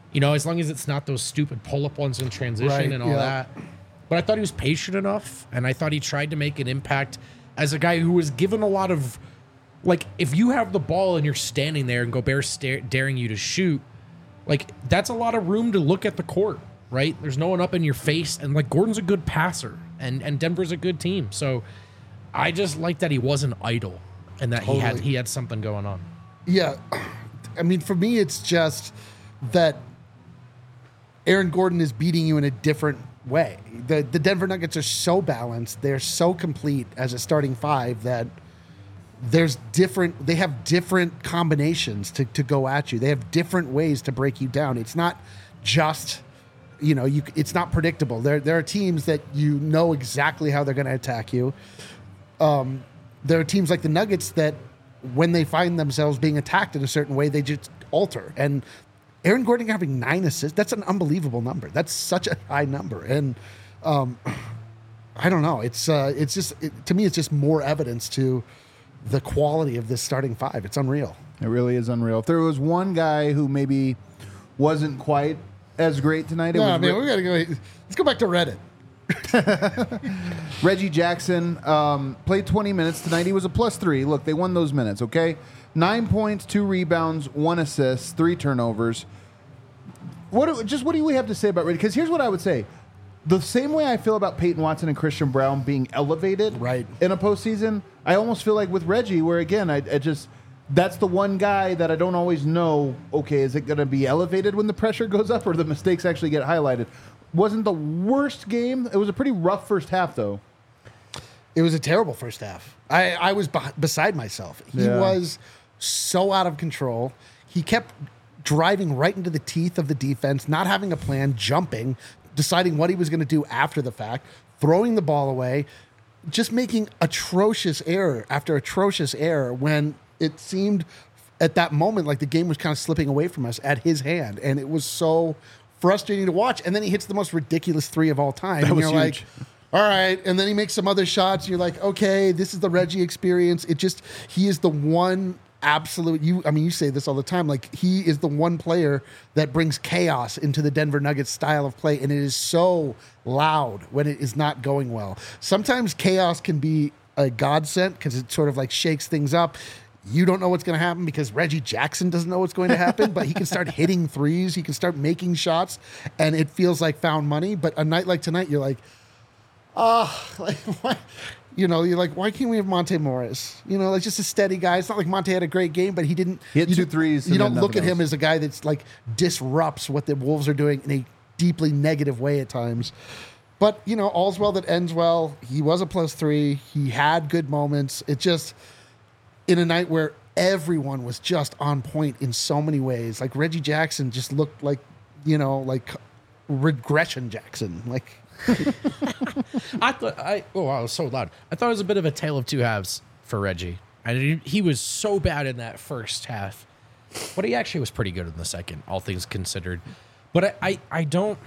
as long as it's not those stupid pull-up ones in transition Right, and all yeah. that. But I thought he was patient enough, and I thought he tried to make an impact as a guy who was given a lot of, like, if you have the ball and you're standing there and Gobert's daring you to shoot, like, that's a lot of room to look at the court, right? There's no one up in your face, and, like, Gordon's a good passer, and Denver's a good team. So I just like that he wasn't idle and that Totally. he had something going on. Yeah. I mean, for me, it's just that Aaron Gordon is beating you in a different way. The Denver Nuggets are so balanced. They're so complete as a starting five that they have different combinations to go at you. They have different ways to break you down. It's not just, it's not predictable. There are teams that you know exactly how they're going to attack you. There are teams like the Nuggets that when they find themselves being attacked in a certain way, they just alter. And Aaron Gordon having 9 assists, that's an unbelievable number. That's such a high number. And I don't know. To me, it's just more evidence to the quality of this starting five. It's unreal. It really is unreal. If there was one guy who maybe wasn't quite as great tonight, it was we gotta go. Let's go back to Reddit. Reggie Jackson. Played 20 minutes tonight. He was a +3. Look, they won those minutes, okay? 9 points, 2 rebounds, 1 assist, 3 turnovers. What do we have to say about Reggie? Because here's what I would say. The same way I feel about Peyton Watson and Christian Brown being elevated Right. in a postseason, I almost feel like with Reggie, where again, I just that's the one guy that I don't always know, okay, is it going to be elevated when the pressure goes up or the mistakes actually get highlighted? Wasn't the worst game. It was a pretty rough first half, though. It was a terrible first half. I was beside myself. He was so out of control. He kept driving right into the teeth of the defense, not having a plan, jumping, deciding what he was going to do after the fact, throwing the ball away, just making atrocious error after atrocious error when it seemed at that moment like the game was kind of slipping away from us at his hand. And it was so frustrating to watch. And then he hits the most ridiculous 3 of all time. That and was you're huge. like, all right. And then he makes some other shots. And you're like, okay, this is the Reggie experience. He is the one absolute, you say this all the time, like he is the one player that brings chaos into the Denver Nuggets style of play. And it is so loud when it is not going well. Sometimes chaos can be a godsend because it sort of like shakes things up. You don't know what's going to happen because Reggie Jackson doesn't know what's going to happen, but he can start hitting threes. He can start making shots, and it feels like found money. But a night like tonight, you're like, why? You're like, why can't we have Monte Morris? Like just a steady guy. It's not like Monte had a great game, but he didn't. He had 2 threes. You and don't then look at nothing him else. as a guy that's like disrupts what the Wolves are doing in a deeply negative way at times. But, all's well that ends well. He was a +3. He had good moments. It just, in a night where everyone was just on point in so many ways, like Reggie Jackson just looked like, like regression Jackson. Like, I was so loud. I thought it was a bit of a tale of two halves for Reggie. He was so bad in that first half, but he actually was pretty good in the second, all things considered. But I don't.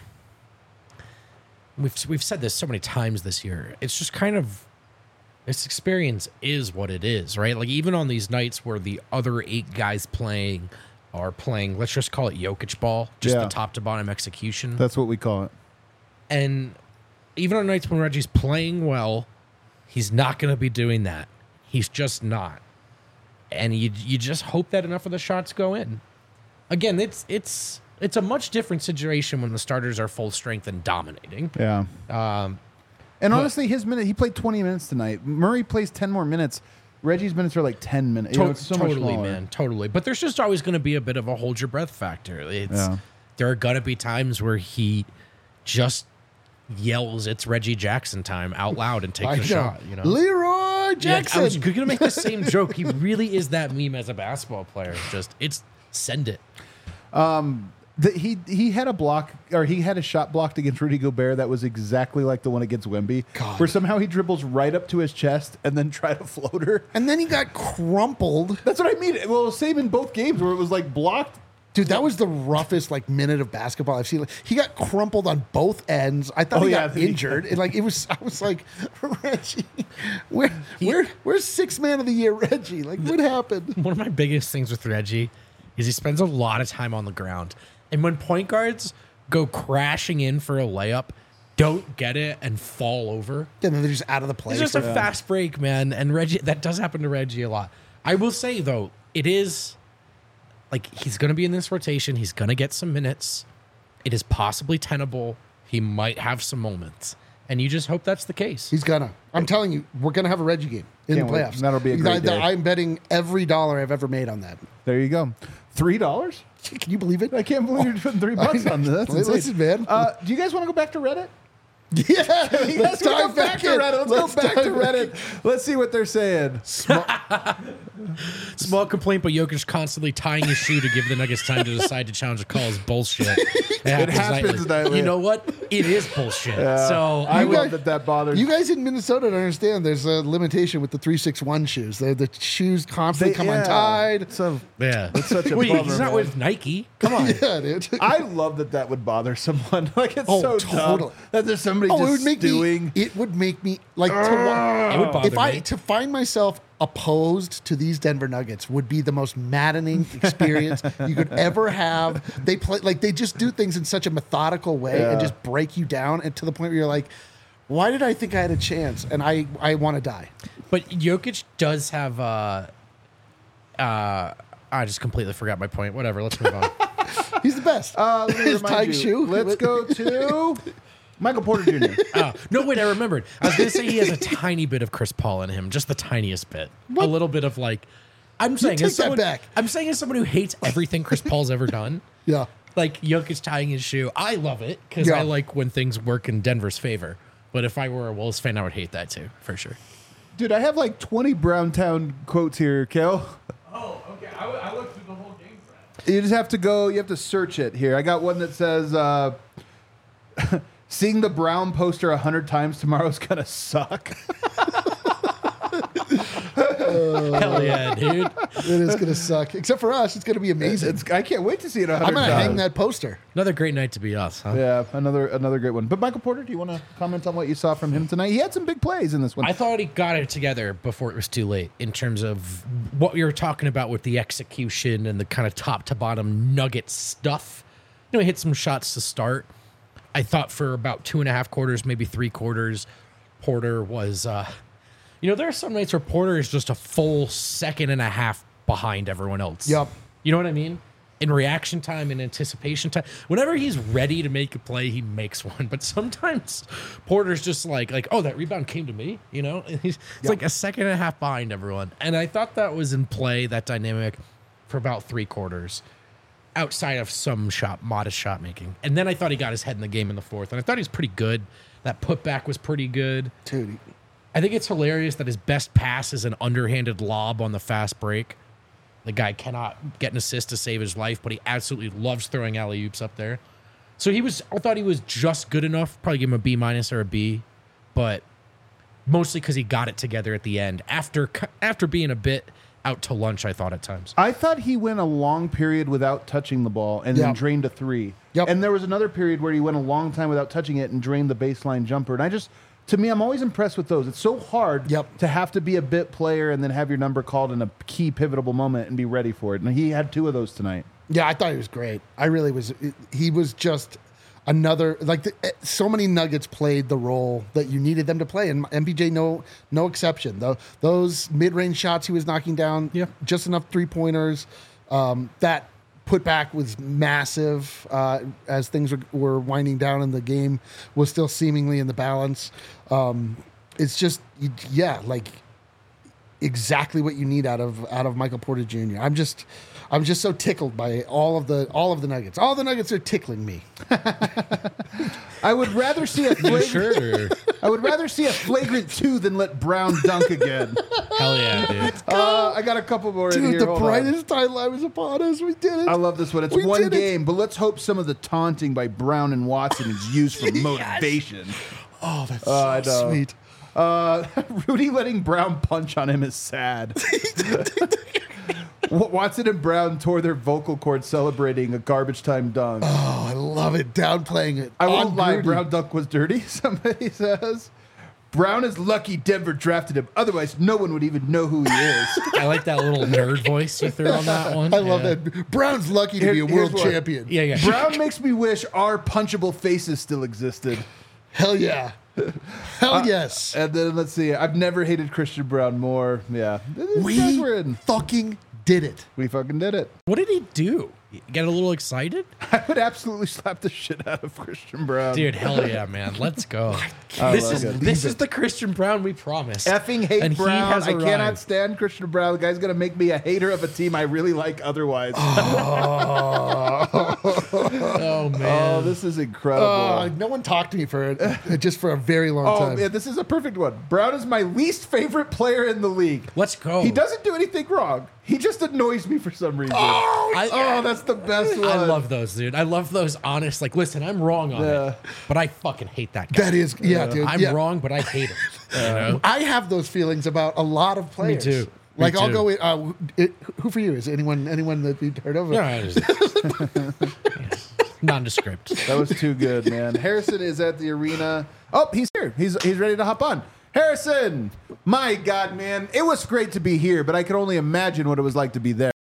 We've said this so many times this year. It's just kind of this experience is what it is, right? Like even on these nights where the other 8 guys playing are playing, let's just call it Jokic ball, just the top to bottom execution. That's what we call it. And even on nights when Reggie's playing well, he's not going to be doing that. He's just not. And you just hope that enough of the shots go in. Again, it's a much different situation when the starters are full strength and dominating. Yeah. And honestly, he played 20 minutes tonight. Murray plays 10 more minutes. Reggie's minutes are like 10 minutes. It's so much Totally, smaller. man. Totally. But there's just always going to be a bit of a hold your breath factor. There are going to be times where he just yells, "It's Reggie Jackson time" out loud and takes a shot. Leroy Jackson. I was going to make the same joke. He really is that meme as a basketball player. Send it. He had a block, or he had a shot blocked against Rudy Gobert that was exactly like the one against Wemby, God. where somehow he dribbles right up to his chest and then tried a floater. And then he got crumpled. That's what I mean. Well, it was same in both games where it was like blocked. Dude, that was the roughest minute of basketball I've seen. He got crumpled on both ends. I thought he got injured. I was like, Reggie, where's 6th man of the year, Reggie? Like, what happened? One of my biggest things with Reggie is he spends a lot of time on the ground. And when point guards go crashing in for a layup, don't get it, and fall over, And then they're just out of the play. it's just a fast break, man. And Reggie, that does happen to Reggie a lot. I will say, though, it is like he's going to be in this rotation. He's going to get some minutes. It is possibly tenable. He might have some moments. And you just hope that's the case. He's gonna. I'm telling you, we're gonna have a Reggie game in Can't the wait. playoffs. That'll be a great day. I'm betting every dollar I've ever made on that. There you go. $3? Can you believe it? I can't believe you're putting $3 on this. That's insane. Listen, man. Do you guys want to go back to Reddit? Yeah, You guys wanna go back to Reddit? Let's go back to Reddit. Let's see what they're saying. Small complaint, but Jokic constantly tying his shoe to give the Nuggets time to decide to challenge a call is bullshit. It happens nightly. You know what? It is bullshit. So I You love guys- that bothers. You guys in Minnesota don't understand. There's a limitation with the 361 shoes. The shoes constantly come untied. So yeah, it's such a Wait, bummer, he's not man. with Nike. Come on. Yeah, dude. I love that would bother someone. Like it's Oh, so totally. dumb that there's somebody Oh, just it would make stewing. me. It would make me like It would bother if I me. to find myself opposed to these Denver Nuggets would be the most maddening experience you could ever have. They play like they just do things in such a methodical way and Yeah. just break you down, and to the point where you're like, why did I think I had a chance? And I want to die. But Jokic does have. I just completely forgot my point. Whatever. Let's move on. He's the best. Let me His remind tight you. shoe. Let's go to Michael Porter Jr. No, wait, I remembered. I was going to say he has a tiny bit of Chris Paul in him, just the tiniest bit. A little bit of like, I'm saying, take as that someone, back. I'm saying as someone who hates everything Chris Paul's ever done, Yeah. like Jokic tying his shoe, I love it because Yeah. I like when things work in Denver's favor. But if I were a Wolves fan, I would hate that too, for sure. Dude, I have like 20 Browntown quotes here, Kel. Oh, okay. I looked through the whole game for that. You just have to go, you have to search it here. I got one that says, seeing the Brown poster 100 times tomorrow's gonna suck. Hell yeah, dude. It is going to suck. Except for us, it's going to be amazing. I can't wait to see it 100 I'm going to times. hang that poster. Another great night to be us, huh? Yeah, another great one. But Michael Porter, do you want to comment on what you saw from him tonight? He had some big plays in this one. I thought he got it together before it was too late in terms of what we were talking about with the execution and the kind of top to bottom nugget stuff. You know, he hit some shots to start. I thought for about 2.5 quarters, maybe 3 quarters, Porter was, there are some nights where Porter is just a full second and a half behind everyone else. Yep. You know what I mean? In reaction time and anticipation time. Whenever he's ready to make a play, he makes one. But sometimes Porter's just like, oh, that rebound came to me, you know? It's like a second and a half behind everyone. And I thought that was in play, that dynamic, for about 3 quarters, outside of some modest shot making. And then I thought he got his head in the game in the fourth. And I thought he was pretty good. That putback was pretty good. Dude, I think it's hilarious that his best pass is an underhanded lob on the fast break. The guy cannot get an assist to save his life, but he absolutely loves throwing alley-oops up there. So I thought he was just good enough. Probably give him a B- or a B, but mostly because he got it together at the end. After being a bit out to lunch, I thought at times. I thought he went a long period without touching the ball and then Yep. drained a 3. Yep. And there was another period where he went a long time without touching it and drained the baseline jumper. And to me, I'm always impressed with those. It's so hard Yep. to have to be a bit player and then have your number called in a key pivotal moment and be ready for it. And he had 2 of those tonight. yeah, I thought he was great. I really was. He was just another, so many Nuggets played the role that you needed them to play. And MPJ, no exception. Those mid-range shots he was knocking down, Yeah. just enough 3-pointers. That putback was massive as things were winding down and the game was still seemingly in the balance. It's just, exactly what you need out of Michael Porter Jr. I'm just so tickled by all of the Nuggets. All the Nuggets are tickling me. I would rather see a flagrant, Sure. I would rather see a flagrant 2 than let Brown dunk again. Hell yeah, dude. I got a couple more in Dude, here. the Hold on. brightest timeline was upon us. We did it. I love this one. It's We one did it. game, but let's hope some of the taunting by Brown and Watson is used for motivation. Oh, that's I so know. sweet. Rudy letting Brown punch on him is sad. Watson and Brown tore their vocal cords celebrating a garbage time dunk. Oh, I love it. Downplaying it. I won't On lie, Grudy. Brown dunk was dirty, somebody says. Brown is lucky Denver drafted him. Otherwise, no one would even know who he is. I like that little nerd voice you threw on that one. I love that. Brown's lucky to be a Here's world what. champion. Yeah. Brown makes me wish our punchable faces still existed. Hell yeah. Hell yes. And then let's see. I've never hated Christian Brown more. Yeah. These guys We were in. fucking did it. We fucking did it. What did he do? Get a little excited? I would absolutely slap the shit out of Christian Brown. Dude, hell yeah, man. Let's go. I This love is it. this is the Christian Brown we promised. Effing hate And he Brown. has I cannot arrived. stand Christian Brown. The guy's going to make me a hater of a team I really like otherwise. Oh man. Oh, this is incredible. No one talked to me for just for a very long Oh, time. man, this is a perfect one. Brown is my least favorite player in the league. Let's go. He doesn't do anything wrong. He just annoys me for some reason. Oh, that's the best one. I love those, dude. I love those honest, like, listen, I'm wrong on Yeah. it, but I fucking hate that guy. That is, yeah, dude. I'm yeah. wrong, but I hate him. You know? I have those feelings about a lot of players. too. Like Me I'll too. go with who for you is anyone that you've heard of? No, I just, nondescript. That was too good, man. Harrison is at the arena. Oh, he's here. He's ready to hop on. Harrison, my God, man. It was great to be here, but I could only imagine what it was like to be there.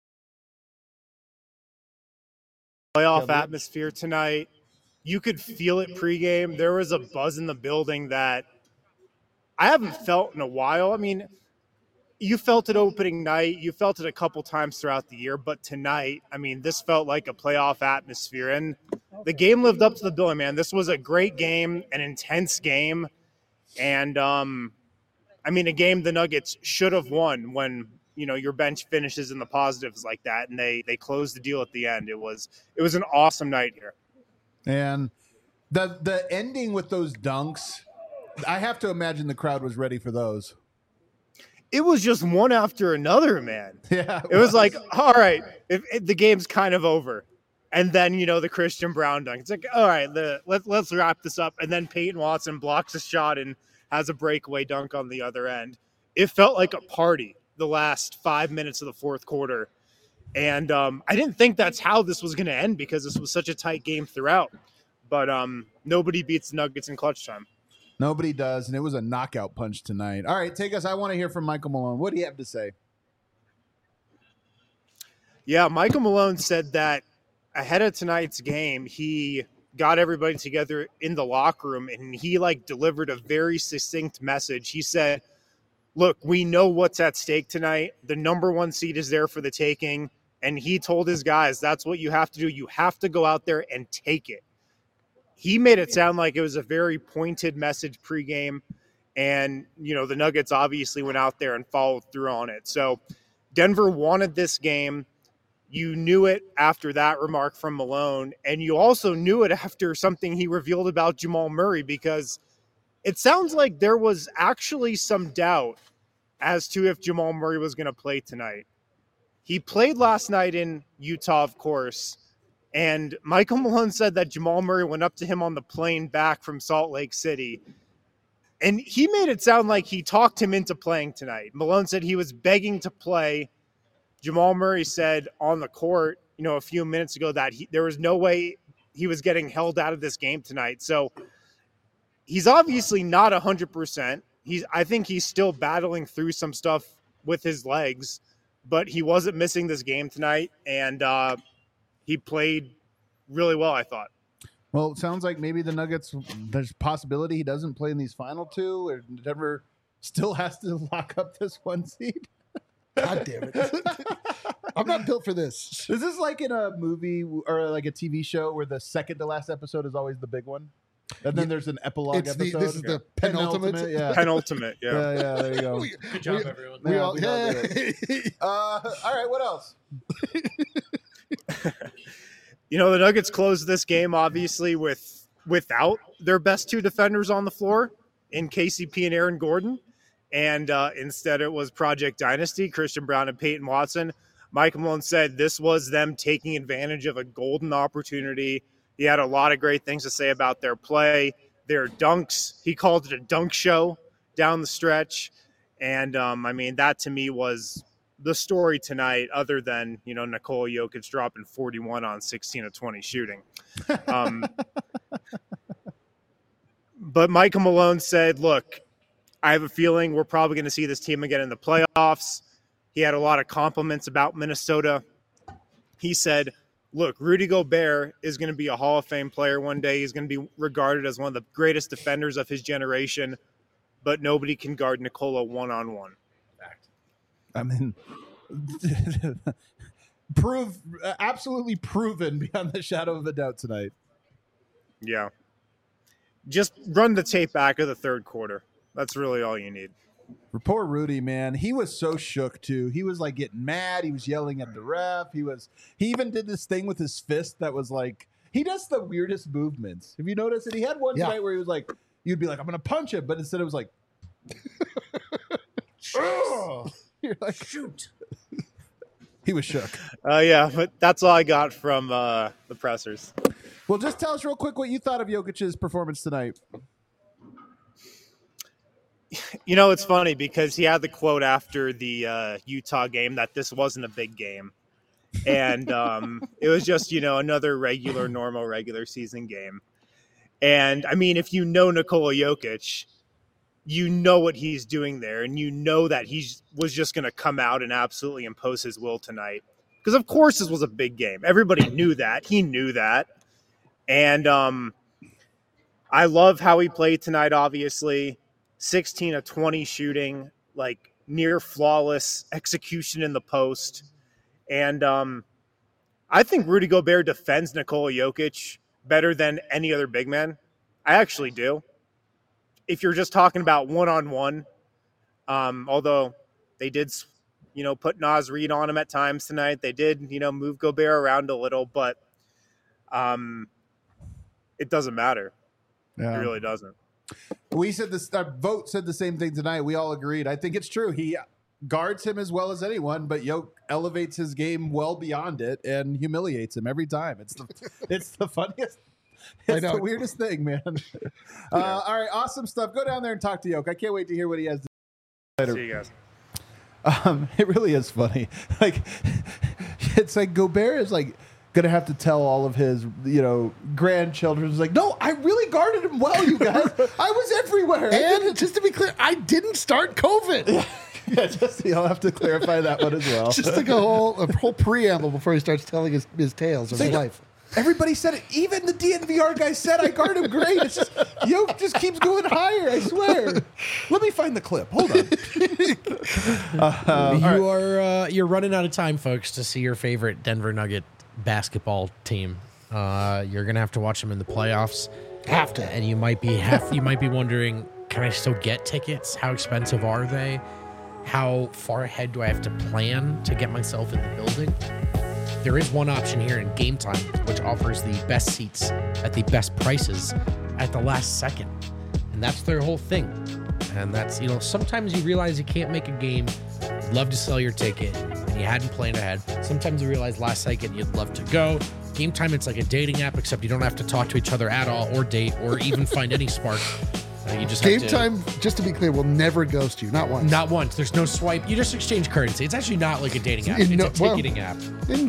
Playoff atmosphere tonight. You could feel it pregame. There was a buzz in the building that I haven't felt in a while. I mean, you felt it opening night. You felt it a couple times throughout the year, but tonight, I mean, this felt like a playoff atmosphere. And the game lived up to the billing, man. This was a great game, an intense game. And, I mean, a game the Nuggets should have won when, you know, your bench finishes in the positives like that, and they closed the deal at the end. It was an awesome night here. And the ending with those dunks, I have to imagine the crowd was ready for those. It was just one after another, man. Yeah. It was like, all right, if the game's kind of over. And then, you know, the Christian Brown dunk. It's like, all right, let's wrap this up. And then Peyton Watson blocks a shot and has a breakaway dunk on the other end. It felt like a party the last 5 minutes of the fourth quarter. And I didn't think that's how this was going to end because this was such a tight game throughout. But nobody beats the Nuggets in clutch time. Nobody does, and it was a knockout punch tonight. All right, take us. I want to hear from Michael Malone. What do you have to say? Yeah, Michael Malone said that ahead of tonight's game, he got everybody together in the locker room and he delivered a very succinct message. He said, look, we know what's at stake tonight. The number one seed is there for the taking. And he told his guys, that's what you have to do. You have to go out there and take it. He made it sound like it was a very pointed message pregame. And, you know, the Nuggets obviously went out there and followed through on it. So Denver wanted this game. You knew it after that remark from Malone. And you also knew it after something he revealed about Jamal Murray, because it sounds like there was actually some doubt as to if Jamal Murray was going to play tonight. He played last night in Utah, of course. And Michael Malone said that Jamal Murray went up to him on the plane back from Salt Lake City. And he made it sound like he talked him into playing tonight. Malone said he was begging to play. Jamal Murray said on the court, you know, a few minutes ago that there was no way he was getting held out of this game tonight. So he's obviously not 100%. I think he's still battling through some stuff with his legs, but he wasn't missing this game tonight. And, he played really well, I thought. Well, it sounds like maybe the Nuggets, there's a possibility he doesn't play in these final two, or Denver still has to lock up this one seed. God damn it. I'm not built for this. Is this like in a movie or like a TV show where the second to last episode is always the big one? And then there's an epilogue episode. This is the penultimate. Yeah. Penultimate, yeah. Yeah, there you go. Good job, everyone. We Yeah, all, we all did all right, what else? You know, the Nuggets closed this game, obviously, without their best two defenders on the floor in KCP and Aaron Gordon. And instead it was Project Dynasty, Christian Brown and Peyton Watson. Mike Malone said this was them taking advantage of a golden opportunity. He had a lot of great things to say about their play, their dunks. He called it a dunk show down the stretch. And, I mean, that to me was the story tonight, other than, you know, Nikola Jokic dropping 41 on 16 of 20 shooting. But Michael Malone said, look, I have a feeling we're probably going to see this team again in the playoffs. He had a lot of compliments about Minnesota. He said, look, Rudy Gobert is going to be a Hall of Fame player one day. He's going to be regarded as one of the greatest defenders of his generation, but nobody can guard Nikola one-on-one. I mean, absolutely proven beyond the shadow of a doubt tonight. Yeah. Just run the tape back of the third quarter. That's really all you need. For poor Rudy, man, he was so shook too. He was like getting mad. He was yelling at the ref. He even did this thing with his fist that was like, he does the weirdest movements. Have you noticed it? He had one tonight where he was like, you'd be like, I'm going to punch him. But instead it was like, oh. You're like, shoot. He was shook. Yeah, but that's all I got from the pressers. Well, just tell us real quick what you thought of Jokic's performance tonight. You know, it's funny because he had the quote after the Utah game that this wasn't a big game. And it was just, another normal regular season game. And, I mean, if you know Nikola Jokic, you know what he's doing there. And you know that he was just going to come out and absolutely impose his will tonight. Because, of course, this was a big game. Everybody knew that. He knew that. And I love how he played tonight, obviously. 16 of 20 shooting, like near flawless execution in the post. And I think Rudy Gobert defends Nikola Jokic better than any other big man. I actually do. If you're just talking about one-on-one, although they did, put Naz Reid on him at times tonight. They did, move Gobert around a little, but it doesn't matter. Yeah. It really doesn't. We said this. Our vote said the same thing tonight. We all agreed. I think it's true. He guards him as well as anyone, but Yoke elevates his game well beyond it and humiliates him every time. It's the funniest. It's the weirdest thing, man. All right, awesome stuff. Go down there and talk to Yoke. I can't wait to hear what he has to say later. See you guys. It really is funny. Like, it's like Gobert is like gonna have to tell all of his, grandchildren. It's like, no, I really guarded him well, you guys. I was everywhere. And just to be clear, I didn't start COVID. Yeah, just you'll have to clarify that one as well. Just like a whole preamble before he starts telling his tales of his life. Everybody said it. Even the DNVR guy said I guard him great. It's just Yoke just keeps going higher. I swear. Let me find the clip. Hold on. You're running out of time, folks, to see your favorite Denver Nugget basketball team. You're gonna have to watch them in the playoffs. Have to. And you might be wondering, can I still get tickets? How expensive are they? How far ahead do I have to plan to get myself in the building? There is one option here in Game Time, which offers the best seats at the best prices at the last second. And that's their whole thing. And that's, sometimes you realize you can't make a game, you'd love to sell your ticket, and you hadn't planned ahead. Sometimes you realize last second you'd love to go. Game Time, it's like a dating app, except you don't have to talk to each other at all, or date, or even find any spark. You just Game Time, just to be clear, will never ghost you. Not once. Not once. There's no swipe. You just exchange currency. It's actually not like a dating app. It's a ticketing app.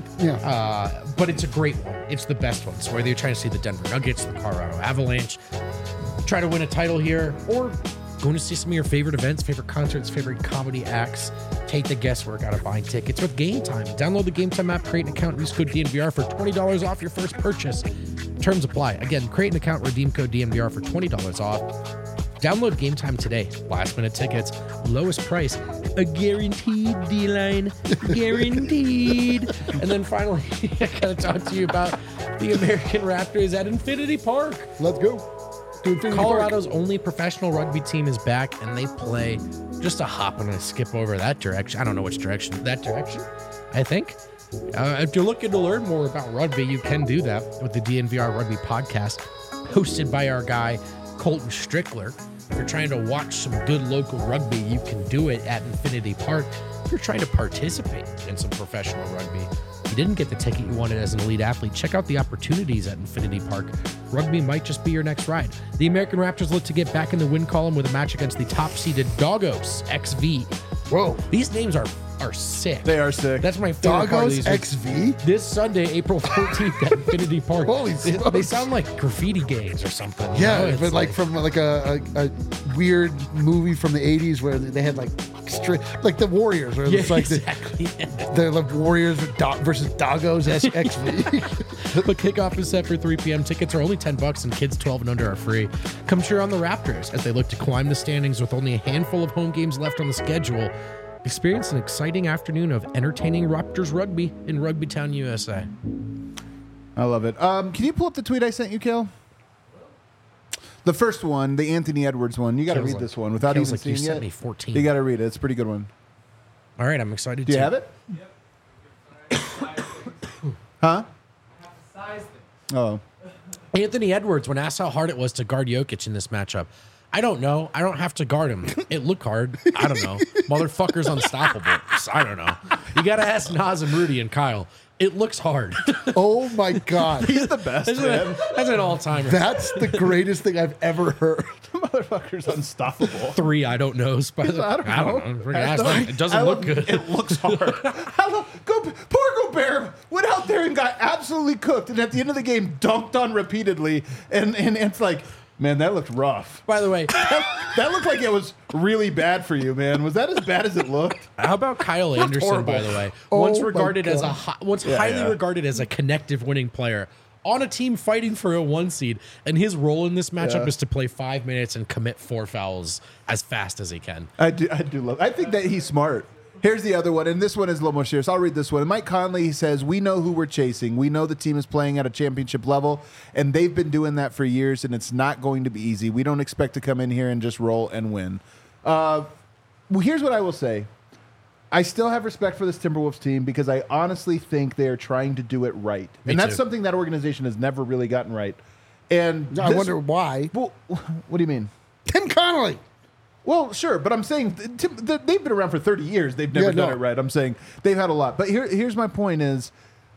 But it's a great one. It's the best one. So whether you're trying to see the Denver Nuggets, the Colorado Avalanche, try to win a title here, or going to see some of your favorite events, favorite concerts, favorite comedy acts, take the guesswork out of buying tickets with Game Time. Download the Game Time app, create an account, use code DNVR for $20 off your first purchase. Terms apply. Again, create an account, redeem code DNVR for $20 off. Download Game Time today. Last minute tickets, lowest price, a guaranteed D-line, guaranteed. And then finally, I gotta talk to you about the American Raptors at Infinity Park. Let's go. Colorado's only professional rugby team is back, and they play just a hop and a skip over that direction. I don't know which direction. That direction, I think. If you're looking to learn more about rugby, you can do that with the DNVR Rugby Podcast, hosted by our guy, Colton Strickler. If you're trying to watch some good local rugby, you can do it at Infinity Park. If you're trying to participate in some professional rugby, you didn't get the ticket you wanted as an elite athlete, check out the opportunities at Infinity Park. Rugby might just be your next ride. The American Raptors look to get back in the win column with a match against the top-seeded Doggos XV. Whoa. These names are are sick. They are sick. That's my favorite part of Doggos these. XV? This Sunday, April 14th at Infinity Park. Holy they smokes. sound like graffiti gangs or something. you Yeah, know? It's but like from like a weird movie from the 80s where they had like like the Warriors, where yeah, it's like exactly. the like Warriors versus Doggos XV. But kickoff is set for 3 p.m. Tickets are only $10 and kids 12 and under are free. Come cheer on the Raptors as they look to climb the standings with only a handful of home games left on the schedule. Experience an exciting afternoon of entertaining Raptors rugby in Rugby Town, USA. I love it. Can you pull up the tweet I sent you, Kel? The first one, the Anthony Edwards one. You got to Feels read like- this one without feels even like you seeing sent it. me 14. You got to read it. It's a pretty good one. All right, I'm excited Do you to have it? Huh? Size thing. Oh. Anthony Edwards, when asked how hard it was to guard Jokic in this matchup, I don't know. I don't have to guard him. It looked hard. I don't know. Motherfucker's unstoppable. I don't know. You got to ask Naz and Rudy and Kyle. It looks hard. Oh my God. He's the best, man. That's an all-timer. That's the greatest thing I've ever heard. Motherfucker's unstoppable. 3, I don't know. I don't know. Freaking ask them. It doesn't look good. It looks hard. Poor Gobert went out there and got absolutely cooked, and at the end of the game, dunked on repeatedly, and it's like, man, that looked rough. By the way, That looked like it was really bad for you, man. Was that as bad as it looked? how about Kyle Anderson, horrible. by the way? Oh Once my regarded as God. highly yeah. regarded as a connective winning player on a team fighting for a 1 seed, and his role in this matchup Yeah. is to play 5 minutes and commit 4 fouls as fast as he can. I do love. I think that he's smart. Here's the other one, and this one is a little more serious. I'll read this one. Mike Conley says, "We know who we're chasing. We know the team is playing at a championship level, and they've been doing that for years, and it's not going to be easy. We don't expect to come in here and just roll and win." Well, here's what I will say. I still have respect for this Timberwolves team because I honestly think they are trying to do it right. Me And that's too. something that organization has never really gotten right. And I this- wonder why. Well, what do you mean? Tim Connolly. Well, sure, but I'm saying they've been around for 30 years. They've never Yeah, done no. it right. I'm saying they've had a lot. But here's my point is,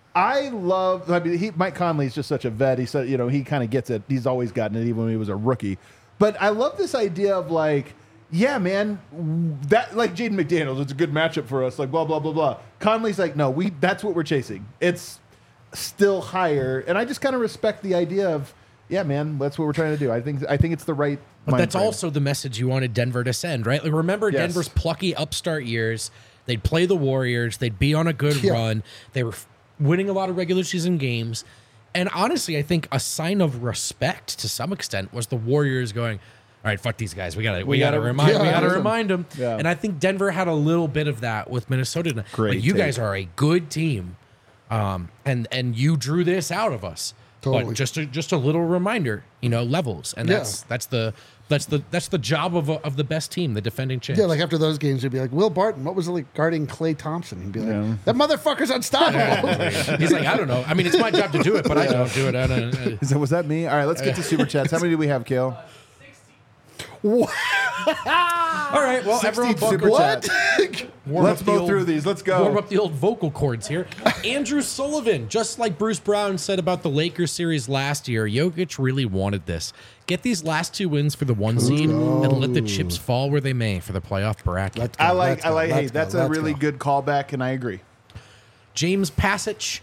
Mike Conley's just such a vet. He said, he kind of gets it. He's always gotten it, even when he was a rookie. But I love this idea of like, yeah, man, that like Jaden McDaniels, it's a good matchup for us. Like blah blah blah blah. Conley's like, no, that's what we're chasing. It's still higher, and I just kind of respect the idea of, yeah, man, that's what we're trying to do. I think it's the right. But mind that's frame. also the message you wanted Denver to send, right? Like, remember Yes. Denver's plucky upstart years. They'd play the Warriors. They'd be on a good Yeah. run. They were winning a lot of regular season games. And honestly, I think a sign of respect to some extent was the Warriors going, all right, fuck these guys. We gotta gotta- remind them. Yeah. And I think Denver had a little bit of that with Minnesota. Great Like, you take. guys are a good team, and you drew this out of us. Totally. But just a little reminder, levels, and Yeah. that's the job of the best team, the defending champs. Yeah, like after those games, they'd be like, Will Barton, what was it like guarding Klay Thompson? He'd be like, that motherfucker's unstoppable. He's like, I don't know. I mean, it's my job to do it, but I don't do it. I don't. Was that me? All right, let's get to super chats. How many do we have, Kale? 60. All right, well, 60 everyone super buckle chats. warm Let's up the go old- through these. Let's go. Warm up the old vocal cords here. Andrew Sullivan, just like Bruce Brown said about the Lakers series last year, Jokic really wanted this. Get these last 2 wins for the 1 seed and let the chips fall where they may for the playoff bracket. Hey, that's a really good callback, and I agree. James Passage,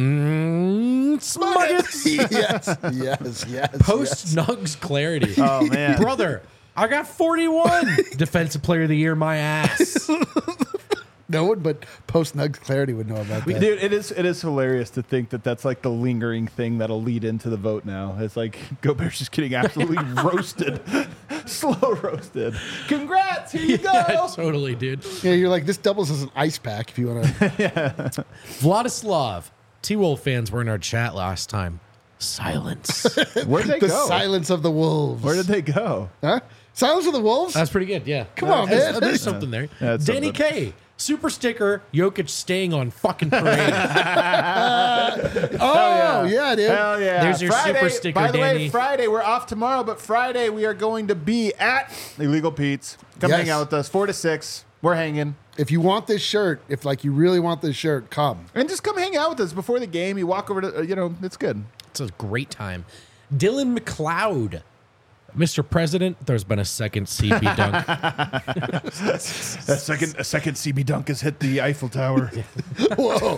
Smuggets. yes. Post Nugs clarity. Oh man, Brother, I got 41. Defensive player of the year, my ass. No one but post Nugs Clarity would know about that. dude, it is hilarious to think that that's like the lingering thing that'll lead into the vote. Now it's like Gobert's just getting absolutely roasted, slow roasted. Congrats, here you go. Yeah, totally, dude. Yeah, you're like, this doubles as an ice pack if you want to. Vladislav. T-Wolf fans were in our chat last time. Silence. Where'd they The go? silence of the wolves. Where did they go? Huh? Silence of the wolves? That's pretty good, yeah. Come on, man. There's something there. That's Danny something. K. Super sticker, Jokic staying on fucking parade. Oh, yeah, dude. Hell yeah! There's your Friday, super sticker, By the way, Danny. Friday we're off tomorrow, but Friday we are going to be at Illegal Pete's. Come Yes. hang out with us, 4 to 6. We're hanging. If you want this shirt, if like you really want this shirt, come. And just come hang out with us before the game. You walk over to, it's good. It's a great time. Dylan McLeod. Mr. President, there's been a second CB dunk. A second CB dunk has hit the Eiffel Tower. Whoa.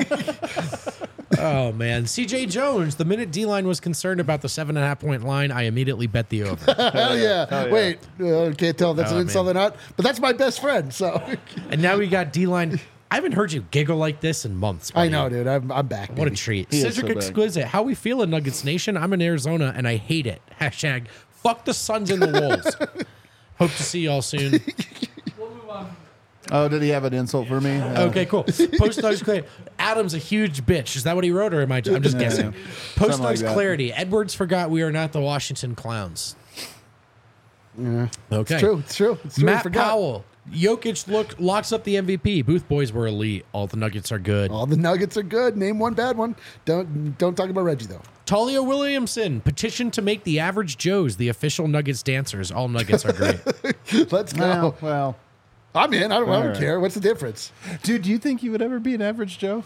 Oh, man. CJ Jones, the minute D-line was concerned about the 7.5-point line, I immediately bet the over. Hell yeah. Hell yeah. Wait, can't tell if that's Oh, an insult or man. not, but that's my best friend, so. And now we got D-line. I haven't heard you giggle like this in months. I buddy. know, dude. I'm back. What a baby. treat. He is Cedric so bad. Exquisite. How we feeling, Nuggets Nation? I'm in Arizona, and I hate it. Hashtag fuck the Suns and the Wolves. Hope to see y'all soon. We'll move on. Oh, did he have an insult for me? Okay, cool. Post Nugs clarity. Adam's a huge bitch. Is that what he wrote, or am I? I'm just Yeah, guessing. yeah. Post Something like Nugs that. clarity. Edwards forgot we are not the Washington Clowns. Yeah. Okay. It's true. It's true. It's true. I Matt forgot. Powell. Jokic locks up the MVP. Booth boys were elite. All the Nuggets are good. All the Nuggets are good. Name one bad one. Don't talk about Reggie though. Talia Williamson petitioned to make the average Joes the official Nuggets dancers. All Nuggets are great. Let's go. Well, I'm in. I don't All right. care. What's the difference? dude, do you think you would ever be an average Joe?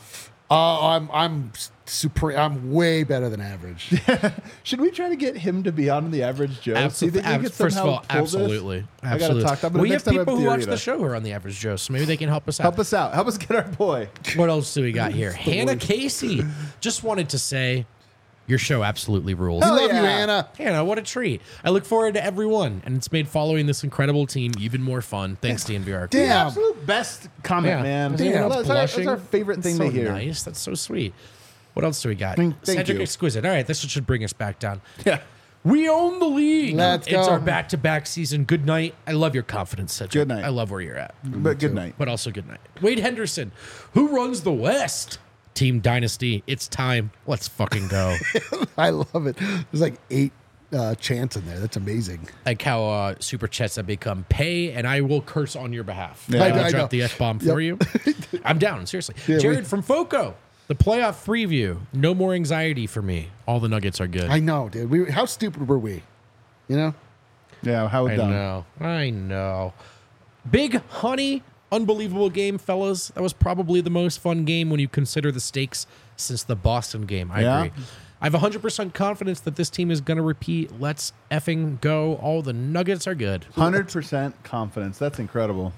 I'm supreme. I'm way better than average. Should we try to get him to be on the average Joe? Do you think we could First of somehow all, pull this? absolutely. I gotta Absolutely. talk. I'm gonna We next have time I people who theory watch to- the show who are on the average Joe, so maybe they can help us out. Help us out. Help us get our boy. What else do we got here? Hannah Casey. Just wanted to say your show absolutely rules. I Hell love you, yeah. Anna. Hannah, what a treat. I look forward to everyone, and it's made following this incredible team even more fun. Thanks, DNVR. The Damn. absolute best comment, Yeah. man. Damn. That's our favorite thing That's to so hear. Nice. That's so sweet. What else do we got? Thank Cedric you. Exquisite. All right, this should bring us back down. Yeah. We own the league. Let's It's go. our back-to-back season. Good night. I love your confidence, Cedric. Good night. I love where you're at. But good night. But also good night. Wade Henderson. Who runs the West? Team Dynasty. It's time. Let's fucking go. I love it. There's like 8 chants in there. That's amazing. Like how super chats have become pay, and I will curse on your behalf. Yeah. I will I drop know. the F-bomb Yep. for you. I'm down, seriously. Yeah, Jared from FOCO. The playoff preview. No more anxiety for me. All the Nuggets are good. I know, dude. How stupid were we? You know? Yeah, how I dumb. know. I know. Big Honey. Unbelievable game, fellas. That was probably the most fun game when you consider the stakes since the Boston game. I Yeah. agree. I have 100% confidence that this team is going to repeat. Let's effing go. All the Nuggets are good. 100% confidence. That's incredible.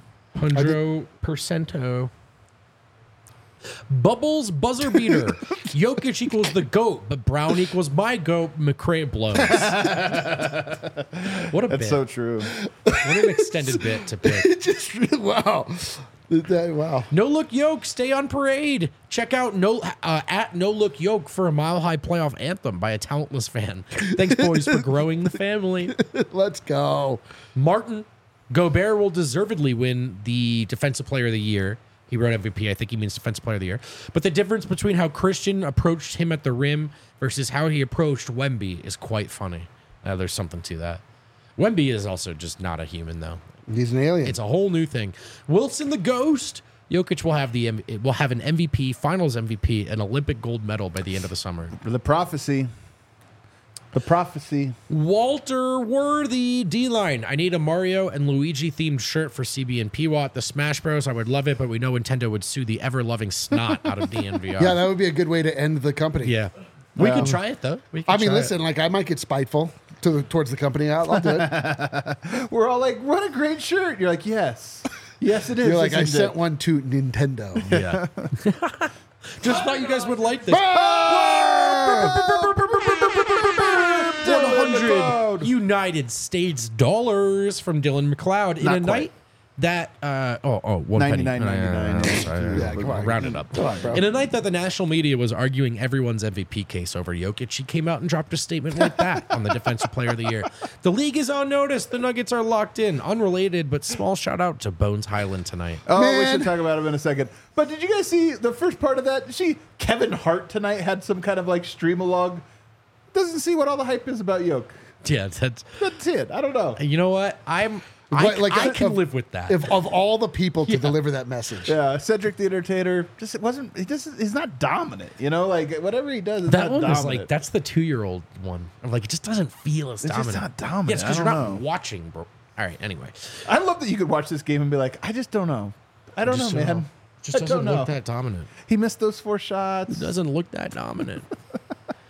100%. Bubbles buzzer beater. Jokic equals the GOAT, but Brown equals my GOAT. McRae blows. What a That's bit. so true. What an extended bit to pick. Just wow. Wow. No Look Yoke, stay on parade. Check out at No Look Yoke for a Mile High playoff anthem by a talentless fan. Thanks, boys, for growing the family. Let's go. Martin Gobert will deservedly win the Defensive Player of the Year. He wrote MVP. I think he means Defensive Player of the Year. But the difference between how Christian approached him at the rim versus how he approached Wemby is quite funny. There's something to that. Wemby is also just not a human, though. He's an alien. It's a whole new thing. Wilson the Ghost. Jokic will have an MVP, Finals MVP, an Olympic gold medal by the end of the summer. The prophecy. The prophecy. Walter Worthy D-line. I need a Mario and Luigi themed shirt for CB and PWAT. The Smash Bros. I would love it, but we know Nintendo would sue the ever-loving snot out of DNVR. Yeah, that would be a good way to end the company. Yeah. We can try it, though. We can I mean, try listen, like I might get spiteful towards the company. I'll do it. We're all like, what a great shirt. You're like, yes. Yes, it is. You're like, I Isn't sent it? one to Nintendo. it. Yeah. Just thought you guys would like this. 100 United States dollars from Dylan McLeod in Not a quite. night that 1 penny. 99.99. Sorry, Yeah, come on. round it up. Come on, bro. In a night that the national media was arguing everyone's MVP case over Jokic, she came out and dropped a statement like that on the Defensive Player of the Year. The league is on notice. The Nuggets are locked in. Unrelated, but small shout out to Bones Highland tonight. Oh, we Man. should talk about him in a second. But did you guys see the first part of that? Kevin Hart tonight had some kind of like stream-a-log. Doesn't see what all the hype is about Yoke. Yeah, that's. That's it. I don't know. You know what? I can if- live with that. If of all the people to deliver that message. Yeah, Cedric the Entertainer he's not dominant, you know, like whatever he does is That not one dominant. was like, that's the 2-year-old one. I'm like, it just doesn't feel as It's just dominant. not dominant. Yeah, it's because I you're don't not know. watching, bro. All right, anyway. I love that you could watch this game and be like, I just don't know. I don't know, Just man. Just I doesn't don't know. look that dominant. He missed those 4 shots. Doesn't look that dominant.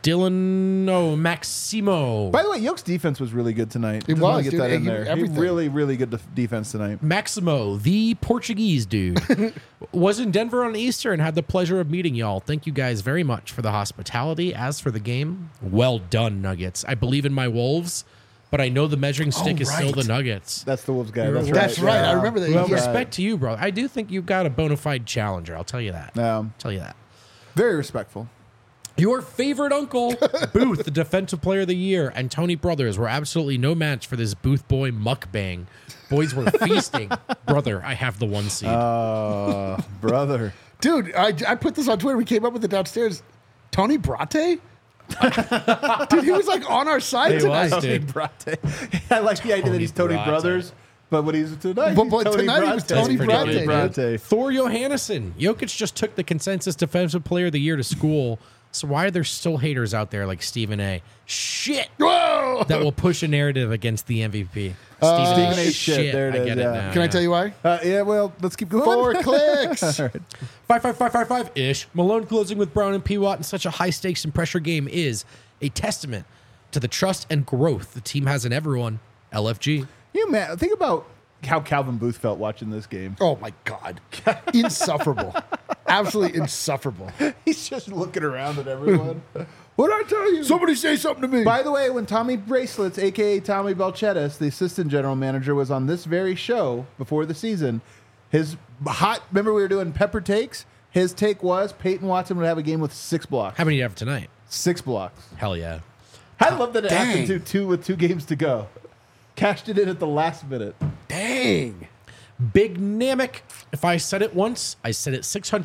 Maximo. By the way, Yoke's defense was really good tonight. It Just wanna was, get dude. that in He- there. He everything. really, really good defense tonight. Maximo, the Portuguese dude, was in Denver on Easter and had the pleasure of meeting y'all. Thank you guys very much for the hospitality. As for the game, well done, Nuggets. I believe in my Wolves, but I know the measuring stick is still right. the Nuggets. That's the Wolves guy. You're That's right. right. That's right. I remember that. Well, Yeah. respect to you, bro. I do think you've got a bona fide challenger. I'll tell you that. Tell you that. Very respectful. Your favorite uncle, Booth, the defensive player of the year, and Tony Brothers were absolutely no match for this Booth boy mukbang. Boys were feasting. Brother, I have the 1 seed. Brother. Dude, I put this on Twitter. We came up with it downstairs. Tony Brate? Dude, he was like on our side He tonight. was, Tony dude. Brate. I like the idea that he's Tony Brate. Brothers, but when he's tonight, But he's Tony tonight he was Brate. Tony That's pretty Brate, good. dude. Thor Johannesson. Jokic just took the consensus defensive player of the year to school. So why are there still haters out there like Stephen A? Shit. Whoa! That will push a narrative against the MVP. Stephen A. shit. There it I is, get yeah. it now. Can I tell you why? Yeah, well, let's keep going. 4 clicks. 5 ish. Malone closing with Brown and P. Watt in such a high stakes and pressure game is a testament to the trust and growth the team has in everyone. LFG. You man, think about how Calvin Booth felt watching this game. Oh my God. Insufferable. Absolutely insufferable. He's just looking around at everyone. What did I tell you? Somebody say something to me. By the way, when Tommy Bracelets, aka Tommy Belchetis, the assistant general manager, was on this very show before the season, his remember we were doing pepper takes? His take was Peyton Watson would have a game with 6 blocks. How many do you have tonight? 6 blocks. Hell yeah. I love that it Dang. happened to 2 with 2 games to go. Cashed it in at the last minute. Dang. Big Namek. If I said it once, I said it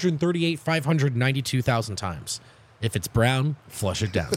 592,000 times. If it's brown, flush it down.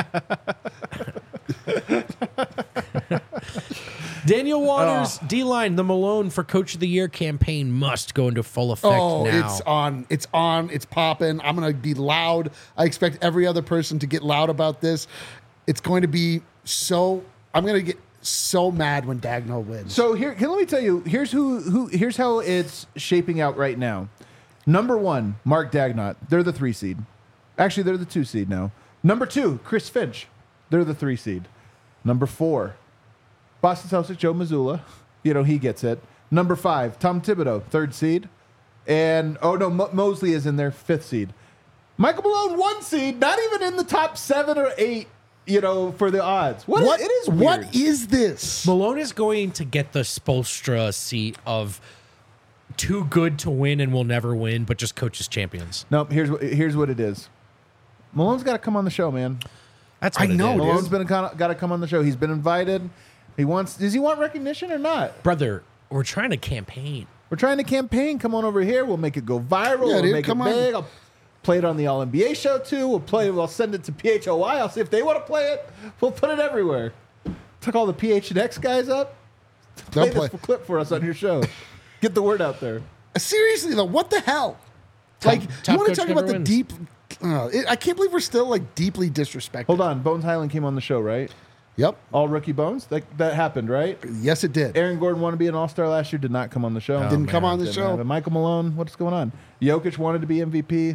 Daniel Waters, D-Line, the Malone for Coach of the Year campaign must go into full effect Oh, now. it's on. It's on. It's popping. I'm going to be loud. I expect every other person to get loud about this. It's going to be so. I'm going to get so mad when Dagnall wins. So let me tell you, here's how it's shaping out right now. Number 1, Mark Dagnott. They're the 3 seed. Actually, they're the 2 seed now. Number 2, Chris Finch. They're the 3 seed. Number 4, Boston Celtics, Joe Mazzulla. You know, he gets it. Number 5, Tom Thibodeau, 3rd seed. And, Mosley is in their 5th seed. Michael Malone, 1 seed, not even in the top 7 or 8, for the odds. It is weird. What is this? Malone is going to get the Spoelstra seat of too good to win and will never win, but just coaches champions. No, here's what it is. Malone's got to come on the show, man. That's what I know, it is. dude. Malone's got to come on the show. He's been invited. Does he want recognition or not? Brother, we're trying to campaign. We're trying to campaign. Come on over here. We'll make it go viral. Yeah, we'll dude, make come it on. big. I'll play it on the All NBA show too. We'll send it to PHOY. I'll see if they want to play it. We'll put it everywhere. Took all the PHNX guys up. Play Don't play. this clip for us on your show. Get the word out there. Seriously though, what the hell? Top you want coach to talk never about the wins. deep? I can't believe we're still like deeply disrespected. Hold on. Bones Highland came on the show, right? Yep. All rookie Bones. That happened, right? Yes, it did. Aaron Gordon wanted to be an All-Star last year. Did not come on the show. Didn't come on the Didn't show. have it. Michael Malone. What's going on? Jokic wanted to be MVP.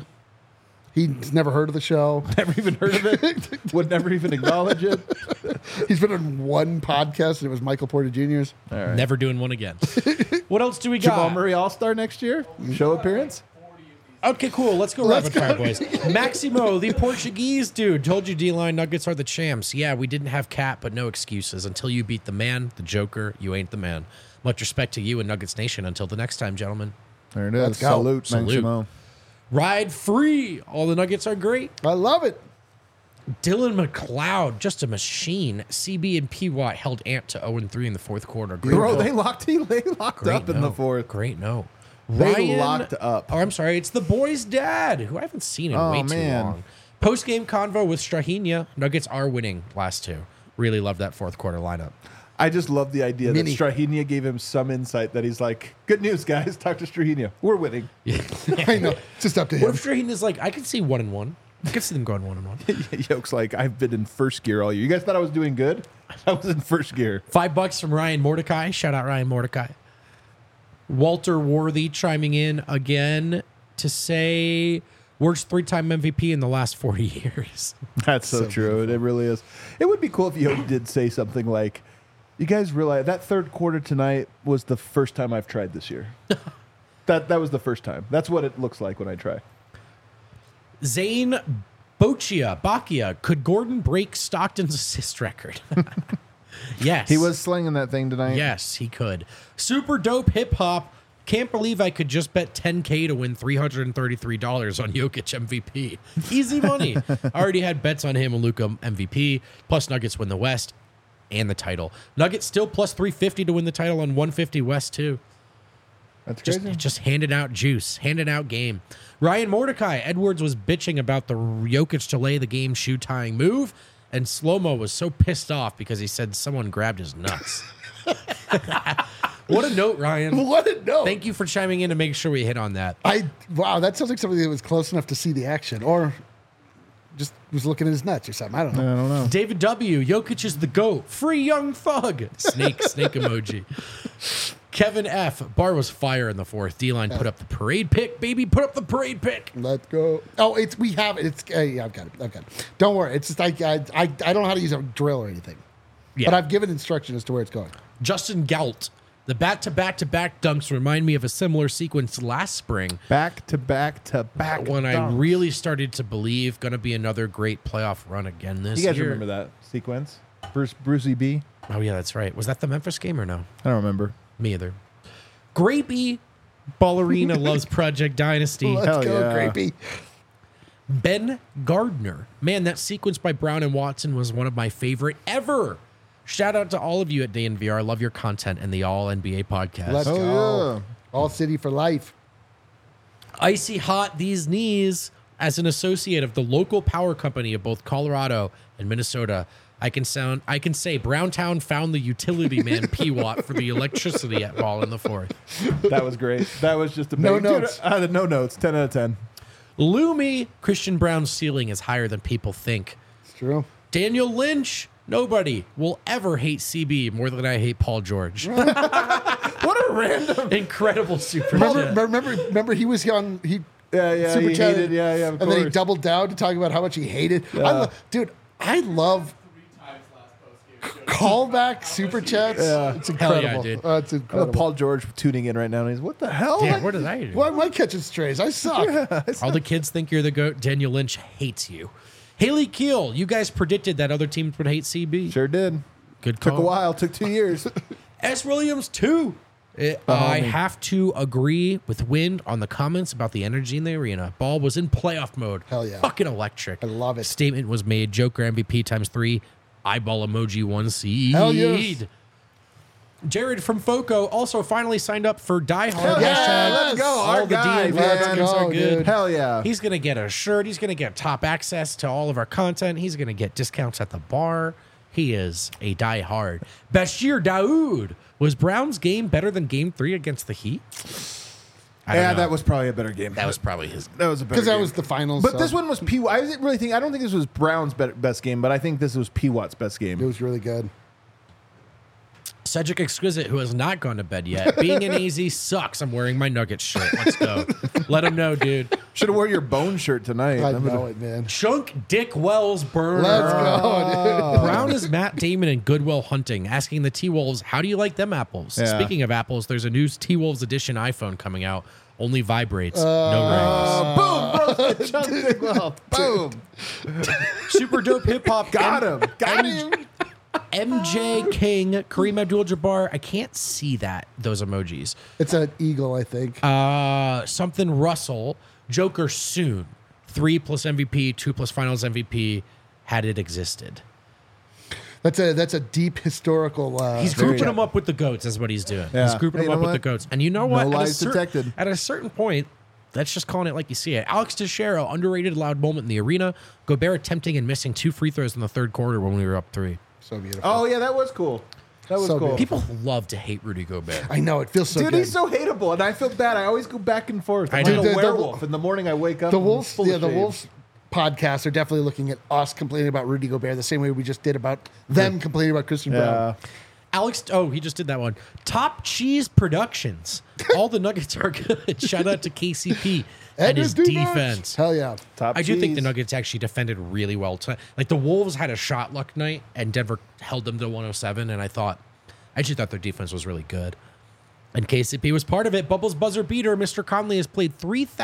He's never heard of the show. Never even heard of it. Would never even acknowledge it. He's been on one podcast, and it was Michael Porter Jr.'s. Never doing one again. What else do we Jamal got? Murray All-Star next year. Show appearance. Okay, cool. Let's go rapid fire, boys. Maximo, the Portuguese dude, told you D-line Nuggets are the champs. Yeah, we didn't have Cat, but no excuses. Until you beat the man, the Joker, you ain't the man. Much respect to you and Nuggets Nation. Until the next time, gentlemen. There it is. Let's go. Salute, Salute. Maximo. Ride free. All the Nuggets are great. I love it. Dylan McLeod, just a machine. CB and P. Watt held Ant to 0-3 in the fourth quarter. Great Bro, note. they locked up in the fourth. Great no. They locked up. Oh, I'm sorry. It's the boy's dad, who I haven't seen in Oh, way too man. long. Post-game convo with Strahinja. Nuggets are winning last 2. Really love that fourth quarter lineup. I just love the idea Mini. that Strahinja gave him some insight that he's like, good news, guys. Talk to Strahinja. We're winning. I know. It's just up to What him. if Strahinja's like, I could see 1-1. I could see them going 1-1. Yoke's like, I've been in first gear all year. You guys thought I was doing good? I was in first gear. $5 from Ryan Mordecai. Shout out Ryan Mordecai. Walter Worthy chiming in again to say, Worst 3-time MVP in the last 40 years. That's so true. It really is. It would be cool if Yogi did say something like, "You guys realize that third quarter tonight was the first time I've tried this year." That was the first time. That's what it looks like when I try. Zane Boccia, could Gordon break Stockton's assist record? Yes. He was slinging that thing tonight. Yes, he could. Super dope hip hop. Can't believe I could just bet $10K to win $333 on Jokic MVP. Easy money. I already had bets on him and Luka MVP, plus Nuggets win the West and the title. Nuggets still plus 350 to win the title on 150 West too. That's crazy. Just handing out juice, handing out game. Ryan Mordecai, Edwards was bitching about the Jokic to lay the game shoe tying move, and Slow-Mo was so pissed off because he said someone grabbed his nuts. What a note, Ryan. What a note. Thank you for chiming in to make sure we hit on that. Wow, that sounds like somebody that was close enough to see the action, or just was looking at his nuts or something. I don't know. David W. Jokic is the GOAT. Free Young Thug. Snake emoji. Kevin F. Bar was fire in the fourth. D-line put up the parade pick, baby. Put up the parade pick. Let's go. Oh, we have it. It's yeah, I've got it. Don't worry. It's just I don't know how to use a drill or anything, Yeah. but I've given instruction as to where it's going. Justin Gault. The back-to-back-to-back dunks remind me of a similar sequence last spring Back when I dunks. really started to believe going to be another great playoff run again this You guys year. remember that sequence? Brucey B? Oh, yeah, that's right. Was that the Memphis game or no? I don't remember. Me either. Grapey Ballerina loves Project Dynasty. Let's Hell go, yeah. Grapey. Ben Gardner. Man, that sequence by Brown and Watson was one of my favorite ever. Shout out to all of you at DNVR. I love your content and the All NBA podcast. Let's Oh, go. yeah. All city for life. Icy hot these knees. As an associate of the local power company of both Colorado and Minnesota, I can say Browntown found the utility man P-Watt for the electricity at ball in the fourth. That was great. That was just a No big, notes. Dude, no notes. 10 out of 10. Lumi, Christian Brown's ceiling is higher than people think. It's true. Daniel Lynch, nobody will ever hate CB more than I hate Paul George. What a random. Incredible super Remember, chat. remember he was on Yeah, super he chatted, hated. Yeah, of and then he course. doubled down to talk about how much he hated. Dude, I love 3 times last post game. callback super chats. Yeah. It's Hell yeah, incredible. dude. It's I love incredible. Paul George tuning in right now, and he's, what the hell? Damn, what did I do? Why am I catching strays? I suck. All the kids think you're the GOAT. Daniel Lynch hates you. Haley Keel, you guys predicted that other teams would hate CB. Sure did. Good Took call. a while. Took 2 years. S. Williams, too. I have to agree with Wind on the comments about the energy in the arena. Ball was in playoff mode. Hell yeah. Fucking electric. I love it. Statement was made. Joker MVP times 3. Eyeball emoji 1 seed. Hell yes. Jared from Foco also finally signed up for Die Hard. yeah, Hashtag let's go. All Our the guy, DNVR man. teams are Go, good. dude. Hell yeah. He's going to get a shirt. He's going to get top access to all of our content. He's going to get discounts at the bar. He is a die-hard. Bashir Daoud. Was Brown's game better than Game 3 against the Heat? I don't Yeah, know. that was probably a better game. That was probably his. That was a better Because that game. was the finals. But so this one was P. I don't think this was Brown's best game, but I think this was P. Watt's best it game. was really good. Cedric Exquisite, who has not gone to bed yet. Being an AZ sucks. I'm wearing my Nuggets shirt. Let's go. Let him know, dude. Should have wore your bone shirt tonight. I That was know a- it, man. Chunk Dick Wells burner. Let's go, dude. Brown is Matt Damon in Goodwill Hunting, asking the T-Wolves, how do you like them apples? Yeah. Speaking of apples, there's a new T-Wolves edition iPhone coming out. Only vibrates, no boom, bro. Chunk Dick Wells. Boom. rings. Super dope hip hop. Got him. Got him. MJ King, Kareem Abdul-Jabbar. I can't see those emojis. It's an eagle, I think. Something Russell, Joker soon. 3 plus MVP, 2 plus Finals MVP. Had it existed. That's a deep historical. He's grouping them up with the goats. Is what he's doing. Yeah. He's grouping Hey, them you up know with the what? goats. And you know what? No At a lies detected. At a certain point, that's just calling it like you see it. Alex Teixeira, underrated loud moment in the arena. Gobert attempting and missing 2 free throws in the third quarter when we were up 3. So beautiful. Oh, yeah, that was cool. That was So cool. good. People love to hate Rudy Gobert. I know it feels so Dude, good. he's so hateable, and I feel bad. I always go back and forth. I I'm know. like a The- werewolf. In the morning, I wake up. The and Wolves, full of the shame. Wolves podcasts are definitely looking at us complaining about Rudy Gobert the same way we just did about them complaining about Christian Brown. Yeah. Alex, he just did that one. Top Cheese Productions. All the Nuggets are good. Shout out to KCP and his defense. Hell yeah. Top I do think cheese. the Nuggets actually defended really well tonight. Like the Wolves had a shot luck night, and Denver held them to 107. And I actually thought their defense was really good. And KCP was part of it. Bubbles buzzer beater. Mr. Conley has played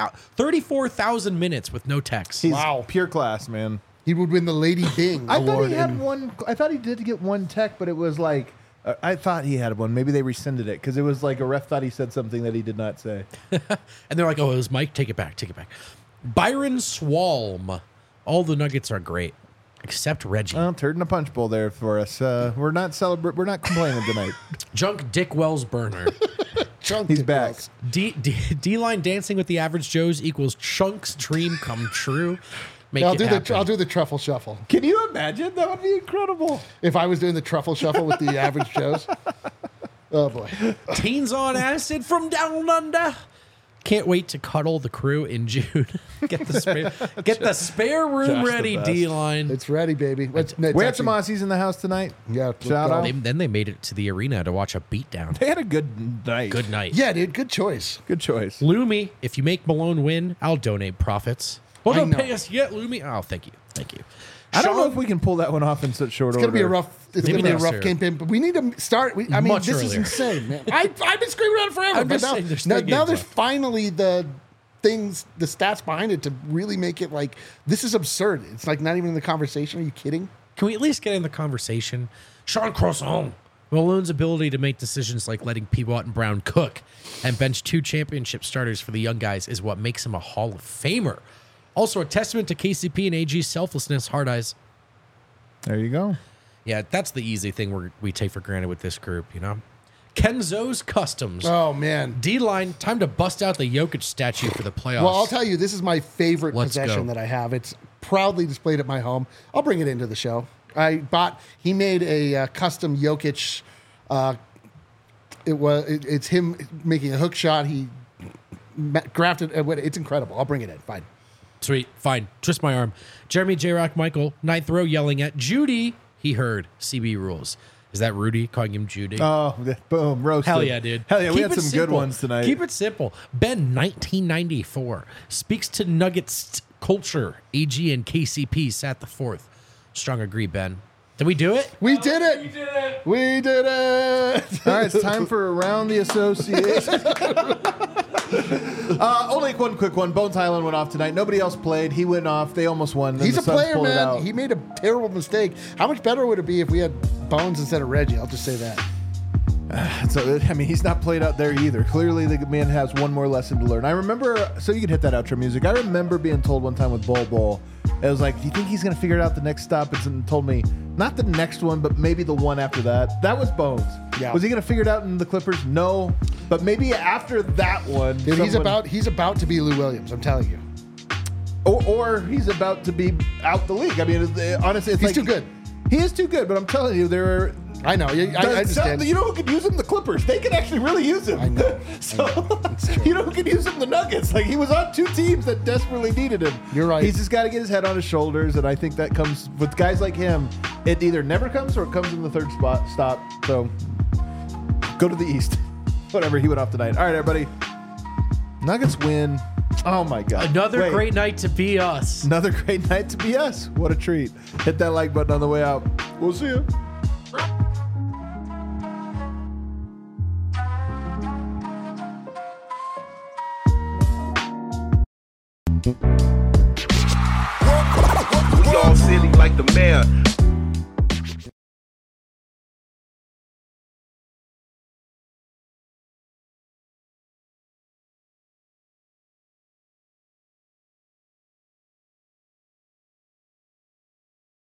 34,000 minutes with no techs. He's Wow. pure class, man. He would win the Lady Bing I award. thought he had in- one. I thought he did get one tech, but it was like I thought he had one. Maybe they rescinded it because it was like a ref thought he said something that he did not say. And they're like, it was Mike. Take it back. Take it back. Byron Swalm. All the Nuggets are great, except Reggie. Well, turd in a punch bowl there for us. We're not We're not complaining tonight. Junk Dick Wells Burner. Chunk He's Dick back. Wells. D-line dancing with the average Joes equals Chunk's dream come true. Make I'll it do happen. I'll do the truffle shuffle. Can you imagine? That would be incredible. If I was doing the truffle shuffle with the average Joes. Oh boy. Teens on acid from down under. Can't wait to cuddle the crew in June. Get the spare room Josh the ready, best. It's D-line. ready, baby. It's We had some Aussies in the house tonight. Yeah, Shout go. out. Then they made it to the arena to watch a beatdown. They had a good night. Good night. Yeah, dude, good choice. Good choice. Lumi, if you make Malone win, I'll donate profits. Well, I don't know. pay us yet, Lumi. Oh, thank you. Thank you. I don't know Sean- if we can pull that one off in such short It's order. gonna be a rough. It's Maybe gonna be a next rough year. campaign, but we need to start. I mean, Much this is earlier. insane, man. I've been screaming around forever. I'm but just now, saying there's now, 3 now games there's left. finally the things, the stats behind it to really make it like this is absurd. It's like not even in the conversation. Are you kidding? Can we at least get in the conversation? Sean Croissant. Malone's ability to make decisions like letting Peabot and Brown cook and bench 2 championship starters for the young guys is what makes him a Hall of Famer. Also a testament to KCP and AG's selflessness, hard eyes. There you go. Yeah, that's the easy thing we take for granted with this group, you know? Kenzo's Customs. Oh man. D-line, time to bust out the Jokic statue for the playoffs. Well, I'll tell you, this is my favorite Let's possession go. that I have. It's proudly displayed at my home. I'll bring it into the show. He made a custom Jokic. It's him making a hook shot. He grafted. It's incredible. I'll bring it in. Fine. Sweet. Fine. Twist my arm. Jeremy J. Rock Michael, ninth row, yelling at Judy. He heard CB rules. Is that Rudy calling him Judy? Oh, boom. Roasted. Hell yeah, dude. Hell yeah. We Keep had it some good simple. ones tonight. Keep it simple. Ben, 1994, speaks to Nuggets culture. AG and KCP sat the 4th. Strong agree, Ben. Did we do it? We did it. You did it. We did it. All right, it's time for Around the Association. Only one quick one. Bones Highland went off tonight. Nobody else played. He went off. They almost won. Then He's the a Suns player, pulled it man. out. He made a terrible mistake. How much better would it be if we had Bones instead of Reggie? I'll just say that. So, I mean, he's not played out there either. Clearly, the man has one more lesson to learn. I remember, so you can hit that outro music. I remember being told one time with Bol, it was like, do you think he's going to figure it out the next stop? And told me, not the next one, but maybe the one after that. That was Bones. Yeah. Was he going to figure it out in the Clippers? No. But maybe after that one. Dude, he's about to be Lou Williams. I'm telling you. Or he's about to be out the league. I mean, honestly, it's He's like too good. He is too good, but I'm telling you, there are. I know. I understand. You know who could use him? The Clippers. They could actually really use him. I know. So, It's true. you know who could use him? The Nuggets. Like, he was on 2 teams that desperately needed him. You're right. He's just got to get his head on his shoulders, and I think that comes with guys like him. It either never comes or it comes in the third stop. So, go to the East. Whatever. He went off tonight. All right, everybody. Nuggets win. Oh my God. Another Wait. great night to be us. Another great night to be us. What a treat. Hit that like button on the way out. We'll see you. We all silly like the mayor.